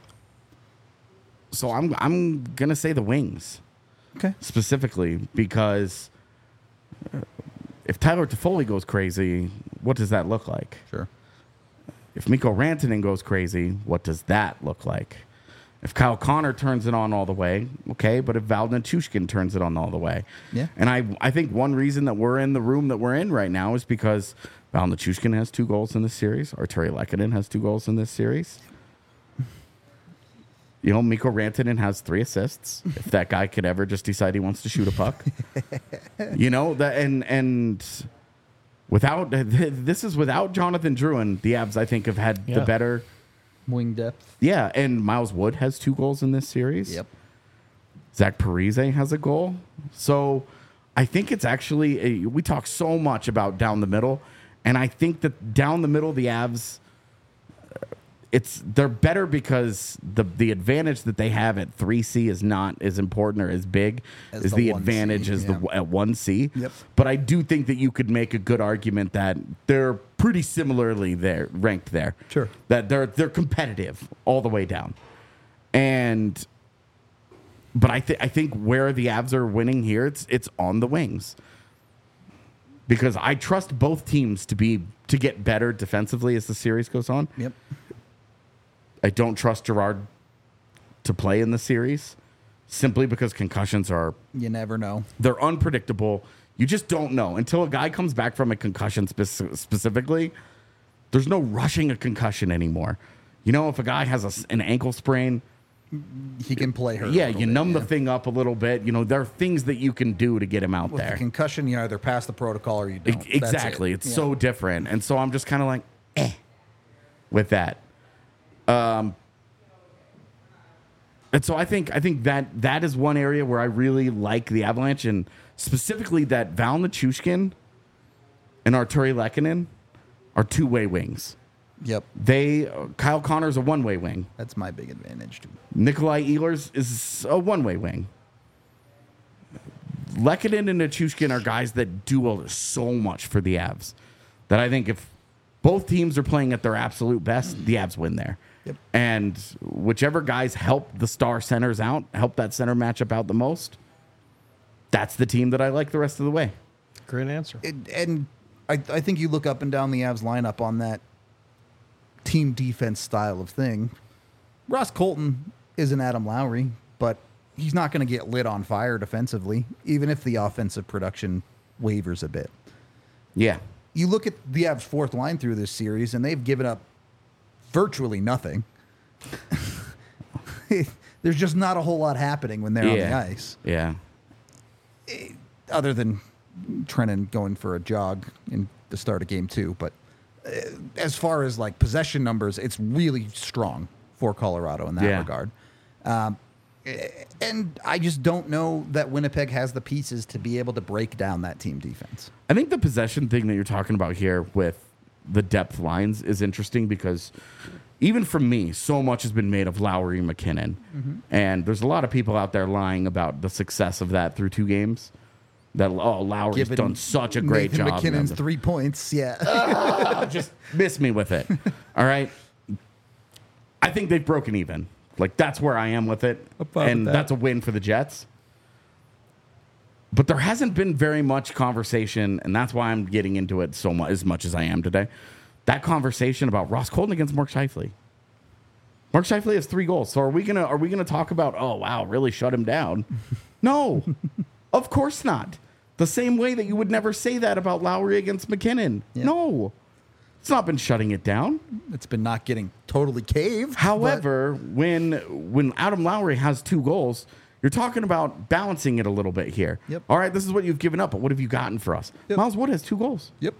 Speaker 3: I'm gonna say the Wings
Speaker 1: Okay.
Speaker 3: specifically because if Tyler Toffoli goes crazy, what does that look like?
Speaker 1: Sure.
Speaker 3: If Mikko Rantanen goes crazy, what does that look like? If Kyle Connor turns it on all the way, okay, but if Val Nichushkin turns it on all the way.
Speaker 1: Yeah.
Speaker 3: And I think one reason that we're in the room that we're in right now is because Val Nichushkin has 2 goals in this series. Arturi Lehkonen has 2 goals in this series. You know, Mikko Rantanen has 3 assists. If that guy could ever just decide he wants to shoot a puck. You know, that and without this is without Jonathan Drouin, the Avs I think have had the better
Speaker 1: Wing depth.
Speaker 3: yeah, and Miles Wood has 2 goals in this series.
Speaker 1: Yep.
Speaker 3: Zach Parise has a goal. So I think it's actually we talk so much about down the middle, And I think that down the middle, the Avs, they're better because the advantage that they have at 3C is not as important or as big as the
Speaker 1: 1C,
Speaker 3: advantage as
Speaker 1: yeah.
Speaker 3: at 1C.
Speaker 1: Yep.
Speaker 3: But I do think that you could make a good argument that they're pretty similarly ranked there.
Speaker 1: Sure.
Speaker 3: That they're competitive all the way down. But I think where the Avs are winning here, it's on the wings. Because I trust both teams to get better defensively as the series goes on.
Speaker 1: Yep.
Speaker 3: I don't trust Gerard to play in the series simply because concussions
Speaker 1: You never know.
Speaker 3: they're unpredictable. You just don't know until a guy comes back from a concussion specifically. There's no rushing a concussion anymore. You know, if a guy has an ankle sprain,
Speaker 1: He can play her.
Speaker 3: yeah, you numb the thing up a little bit. You know, there are things that you can do to get him out
Speaker 1: With
Speaker 3: there.
Speaker 1: the concussion, you either pass the protocol or you don't. That's
Speaker 3: Exactly.
Speaker 1: it.
Speaker 3: It's
Speaker 1: Yeah.
Speaker 3: so different. And so I'm just kind of like, with that. And so I think that is one area where I really like the Avalanche, and specifically that Val Nichushkin and Arturi Lehkonen are two-way wings.
Speaker 1: Yep.
Speaker 3: Kyle Connor's a one-way wing.
Speaker 1: That's my big advantage too.
Speaker 3: Nikolai Ehlers is a one-way wing. Lehkonen and Nichushkin are guys that do so much for the Avs that I think if both teams are playing at their absolute best, the Avs win there.
Speaker 1: Yep.
Speaker 3: And whichever guys help the star centers out, help that center matchup out the most, that's the team that I like the rest of the way.
Speaker 2: Great answer.
Speaker 1: And I think you look up and down the Avs lineup on that team defense style of thing. Ross Colton isn't Adam Lowry, but he's not going to get lit on fire defensively, even if the offensive production wavers a bit.
Speaker 3: Yeah.
Speaker 1: You look at the Avs' fourth line through this series, and they've given up virtually nothing. There's just not a whole lot happening when they're on the ice,
Speaker 3: Yeah.
Speaker 1: other than Trennan going for a jog in the start of game 2. But as far as like possession numbers, it's really strong for Colorado in that regard. And I just don't know that Winnipeg has the pieces to be able to break down that team defense.
Speaker 3: I think the possession thing that you're talking about here with the depth lines is interesting because even from me, so much has been made of Lowry and McKinnon. Mm-hmm. And there's a lot of people out there lying about the success of that through 2 games. That, Lowry's done such a great
Speaker 1: Nathan
Speaker 3: job.
Speaker 1: McKinnon's 3 points, yeah.
Speaker 3: Just miss me with it. All right. I think they've broken even. Like, that's where I am with it. And that's a win for the Jets. But there hasn't been very much conversation, and that's why I'm getting into it as much as I am today. That conversation about Ross Colton against Mark Scheifele. Mark Scheifele has 3 goals. So are we gonna talk about, oh wow, really shut him down? No, of course not. The same way that you would never say that about Lowry against McKinnon.
Speaker 1: Yeah.
Speaker 3: No, it's not been shutting it down.
Speaker 1: It's been not getting totally caved.
Speaker 3: However, when Adam Lowry has 2 goals, you're talking about balancing it a little bit here.
Speaker 1: Yep.
Speaker 3: All right, this is what you've given up, but what have you gotten for us?
Speaker 1: Yep.
Speaker 3: Miles Wood has 2 goals.
Speaker 1: Yep.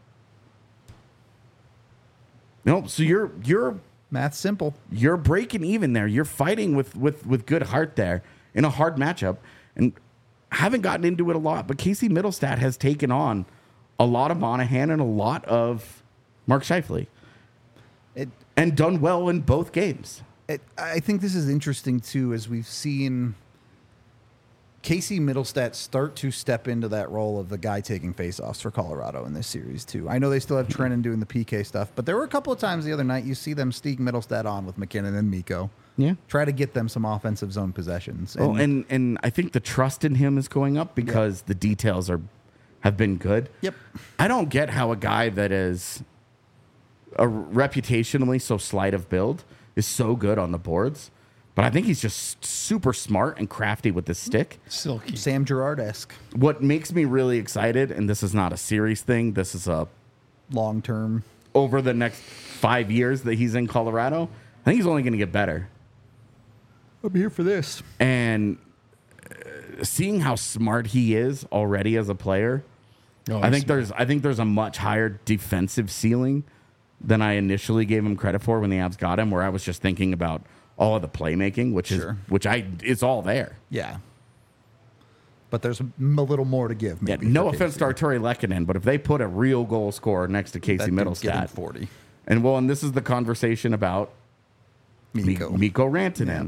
Speaker 3: No, so you're
Speaker 1: Math's simple.
Speaker 3: you're breaking even there. You're fighting with good heart there in a hard matchup, and haven't gotten into it a lot. But Casey Middlestat has taken on a lot of Monahan and a lot of Mark Scheifele, and done well in both games.
Speaker 1: I think this is interesting too, as we've seen Casey Middlestat start to step into that role of the guy taking faceoffs for Colorado in this series too. I know they still have Trennan doing the PK stuff, but there were a couple of times the other night you see them sneak Middlestat on with McKinnon and Mikko.
Speaker 3: Yeah.
Speaker 1: Try to get them some offensive zone possessions.
Speaker 3: And I think the trust in him is going up because the details have been good.
Speaker 1: Yep.
Speaker 3: I don't get how a guy that is a reputationally so slight of build is so good on the boards, but I think he's just super smart and crafty with the stick.
Speaker 2: Silky.
Speaker 1: Sam Girard-esque.
Speaker 3: What makes me really excited, and this is not a series thing, this is a
Speaker 1: Long term.
Speaker 3: over the next 5 years that he's in Colorado, I think he's only going to get better.
Speaker 1: I'm here for this.
Speaker 3: And seeing how smart he is already as a player, I think there's a much higher defensive ceiling than I initially gave him credit for when the Avs got him, where I was just thinking about all of the playmaking, which is all there.
Speaker 1: Yeah. but there's a little more to give.
Speaker 3: Yeah,
Speaker 1: maybe
Speaker 3: no
Speaker 1: for
Speaker 3: offense to
Speaker 1: KC.
Speaker 3: Arturi Lehkonen, but if they put a real goal scorer next to Casey
Speaker 1: That dude's getting
Speaker 3: Middlestat,
Speaker 1: 40.
Speaker 3: and this is the conversation about Mikko Rantanen.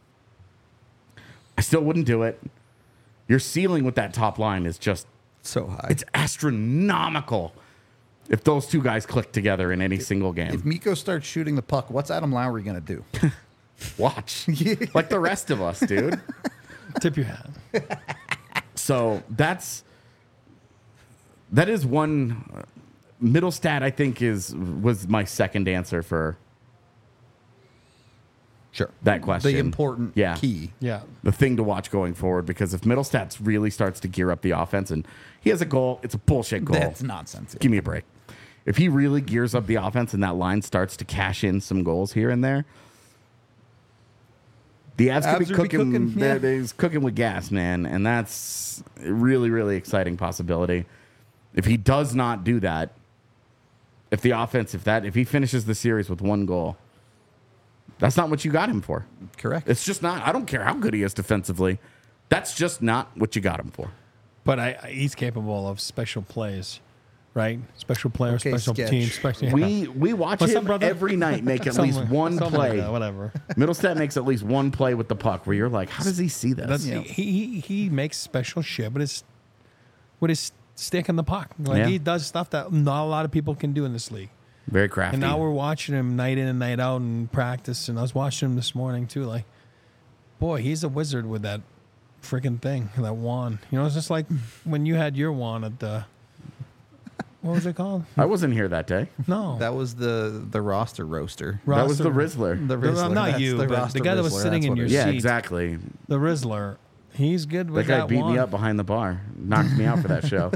Speaker 3: I still wouldn't do it. Your ceiling with that top line is just
Speaker 1: So high.
Speaker 3: it's astronomical. If those two guys click together in any single game,
Speaker 1: If Mikko starts shooting the puck, what's Adam Lowry going to do?
Speaker 3: watch like the rest of us, dude.
Speaker 2: Tip your hat.
Speaker 3: So that is one. Middlestat, I think, was my second answer for
Speaker 1: Sure.
Speaker 3: that question.
Speaker 1: The important key.
Speaker 2: Yeah.
Speaker 3: The thing to watch going forward, because if Middlestat really starts to gear up the offense and he has a goal, it's a bullshit goal.
Speaker 1: That's nonsense.
Speaker 3: Give me a break. If he really gears up the offense and that line starts to cash in some goals here and there, the Avs could be cooking. He's cooking with gas, man, and that's a really, really exciting possibility. If he does not do that, if he finishes the series with one goal, that's not what you got him for.
Speaker 1: Correct.
Speaker 3: It's just not. I don't care how good he is defensively. That's just not what you got him for.
Speaker 2: But he's capable of special plays, right? Special player,
Speaker 1: Okay,
Speaker 2: special
Speaker 1: sketch.
Speaker 2: team, special.
Speaker 3: We watch
Speaker 2: What's
Speaker 3: him
Speaker 2: up, brother?
Speaker 3: every night make at least one
Speaker 2: something
Speaker 3: play.
Speaker 2: like that, whatever.
Speaker 3: Middlestat makes at least one play with the puck where you're like, how does he see this?
Speaker 2: That's,
Speaker 1: Yeah.
Speaker 2: he makes special shit with his stick in the puck. Like
Speaker 3: Yeah.
Speaker 2: he does stuff that not a lot of people can do in this league.
Speaker 3: Very crafty.
Speaker 2: And now we're watching him night in and night out in practice. And I was watching him this morning too. Like, boy, he's a wizard with that freaking thing, that wand. You know, it's just like when you had your wand at the. What was it called?
Speaker 3: I wasn't here that day.
Speaker 2: No,
Speaker 1: That was the roster roaster.
Speaker 3: That was the
Speaker 2: Roster-
Speaker 3: Rizzler.
Speaker 1: The
Speaker 2: No,
Speaker 1: Rizzler.
Speaker 2: not
Speaker 1: That's
Speaker 2: you, but the
Speaker 1: roster
Speaker 2: guy that was
Speaker 1: Rizzler.
Speaker 2: sitting
Speaker 1: That's
Speaker 2: in
Speaker 1: what it
Speaker 2: your
Speaker 1: is.
Speaker 3: Yeah,
Speaker 2: seat.
Speaker 3: exactly.
Speaker 2: The Rizzler. He's good
Speaker 3: That
Speaker 2: with
Speaker 3: guy
Speaker 2: that
Speaker 3: beat
Speaker 2: wand.
Speaker 3: me up behind the bar. Knocked me out for that show.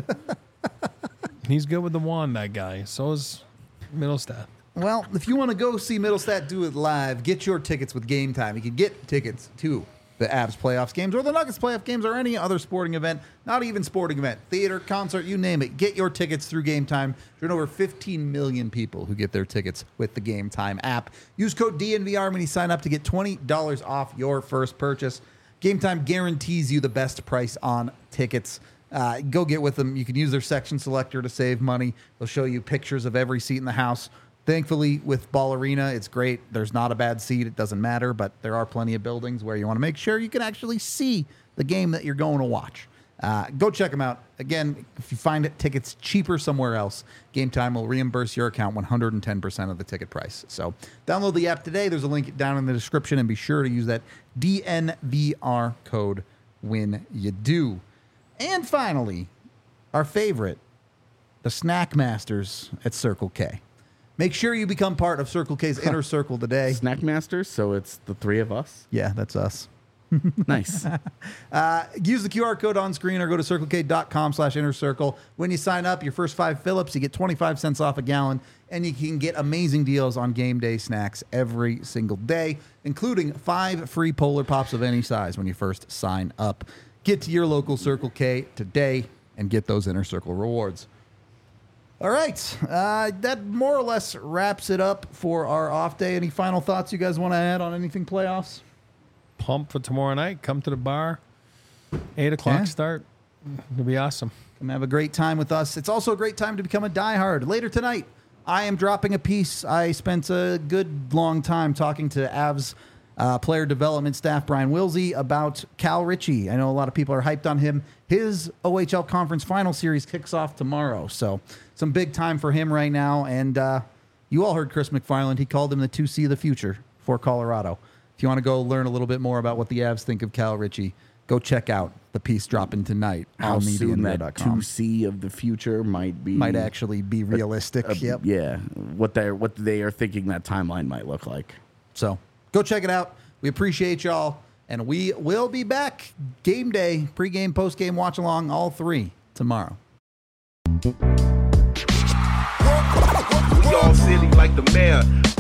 Speaker 2: He's good with the wand, that guy. So is Middlestat.
Speaker 1: Well, if you want to go see Middlestat do it live, get your tickets with Game Time. You can get tickets to the Avs playoffs games or the Nuggets playoff games or any other sporting event, not even sporting event, theater, concert, you name it. Get your tickets through Game Time. There's over 15 million people who get their tickets with the Game Time app. Use code DNVR when you sign up to get $20 off your first purchase. Game Time guarantees you the best price on tickets. Go get with them. You can use their section selector to save money. They'll show you pictures of every seat in the house. Thankfully, with Ball Arena, it's great. There's not a bad seat. It doesn't matter, but there are plenty of buildings where you want to make sure you can actually see the game that you're going to watch. Go check them out. Again, if you find tickets cheaper somewhere else, Game Time will reimburse your account 110% of the ticket price. So download the app today. There's a link down in the description, and be sure to use that DNVR code when you do. And finally, our favorite, the Snack Masters at Circle K. Make sure you become part of Circle K's Inner Circle today.
Speaker 3: Snack Masters, so it's the three of us.
Speaker 1: Yeah, that's us.
Speaker 3: Nice.
Speaker 1: Use the QR code on screen or go to circlek.com/innercircle. When you sign up, your first 5 fill-ups, you get 25 cents off a gallon, and you can get amazing deals on game day snacks every single day, including 5 free Polar Pops of any size when you first sign up. Get to your local Circle K today and get those Inner Circle rewards. All right, that more or less wraps it up for our off day. Any final thoughts you guys want to add on anything playoffs?
Speaker 2: Pump for tomorrow night. Come to the bar. 8 o'clock
Speaker 1: Yeah.
Speaker 2: start. It'll be awesome.
Speaker 1: Come have a great time with us. It's also a great time to become a diehard. Later tonight, I am dropping a piece. I spent a good long time talking to Avs player development staff Brian Wilsey about Cal Ritchie. I know a lot of people are hyped on him. His OHL Conference Final Series kicks off tomorrow, so some big time for him right now. And you all heard Chris McFarland. He called him the 2C of the future for Colorado. If you want to go learn a little bit more about what the Avs think of Cal Ritchie, go check out the piece dropping tonight
Speaker 3: How
Speaker 1: on
Speaker 3: soon that
Speaker 1: MediaNerd.com.
Speaker 3: 2C of the future
Speaker 1: Might actually be realistic. Yep.
Speaker 3: Yeah, what they are thinking that timeline might look like.
Speaker 1: So go check it out. We appreciate y'all. And we will be back game day, pregame, postgame, watch along, all 3 tomorrow.
Speaker 4: We all silly like the mayor.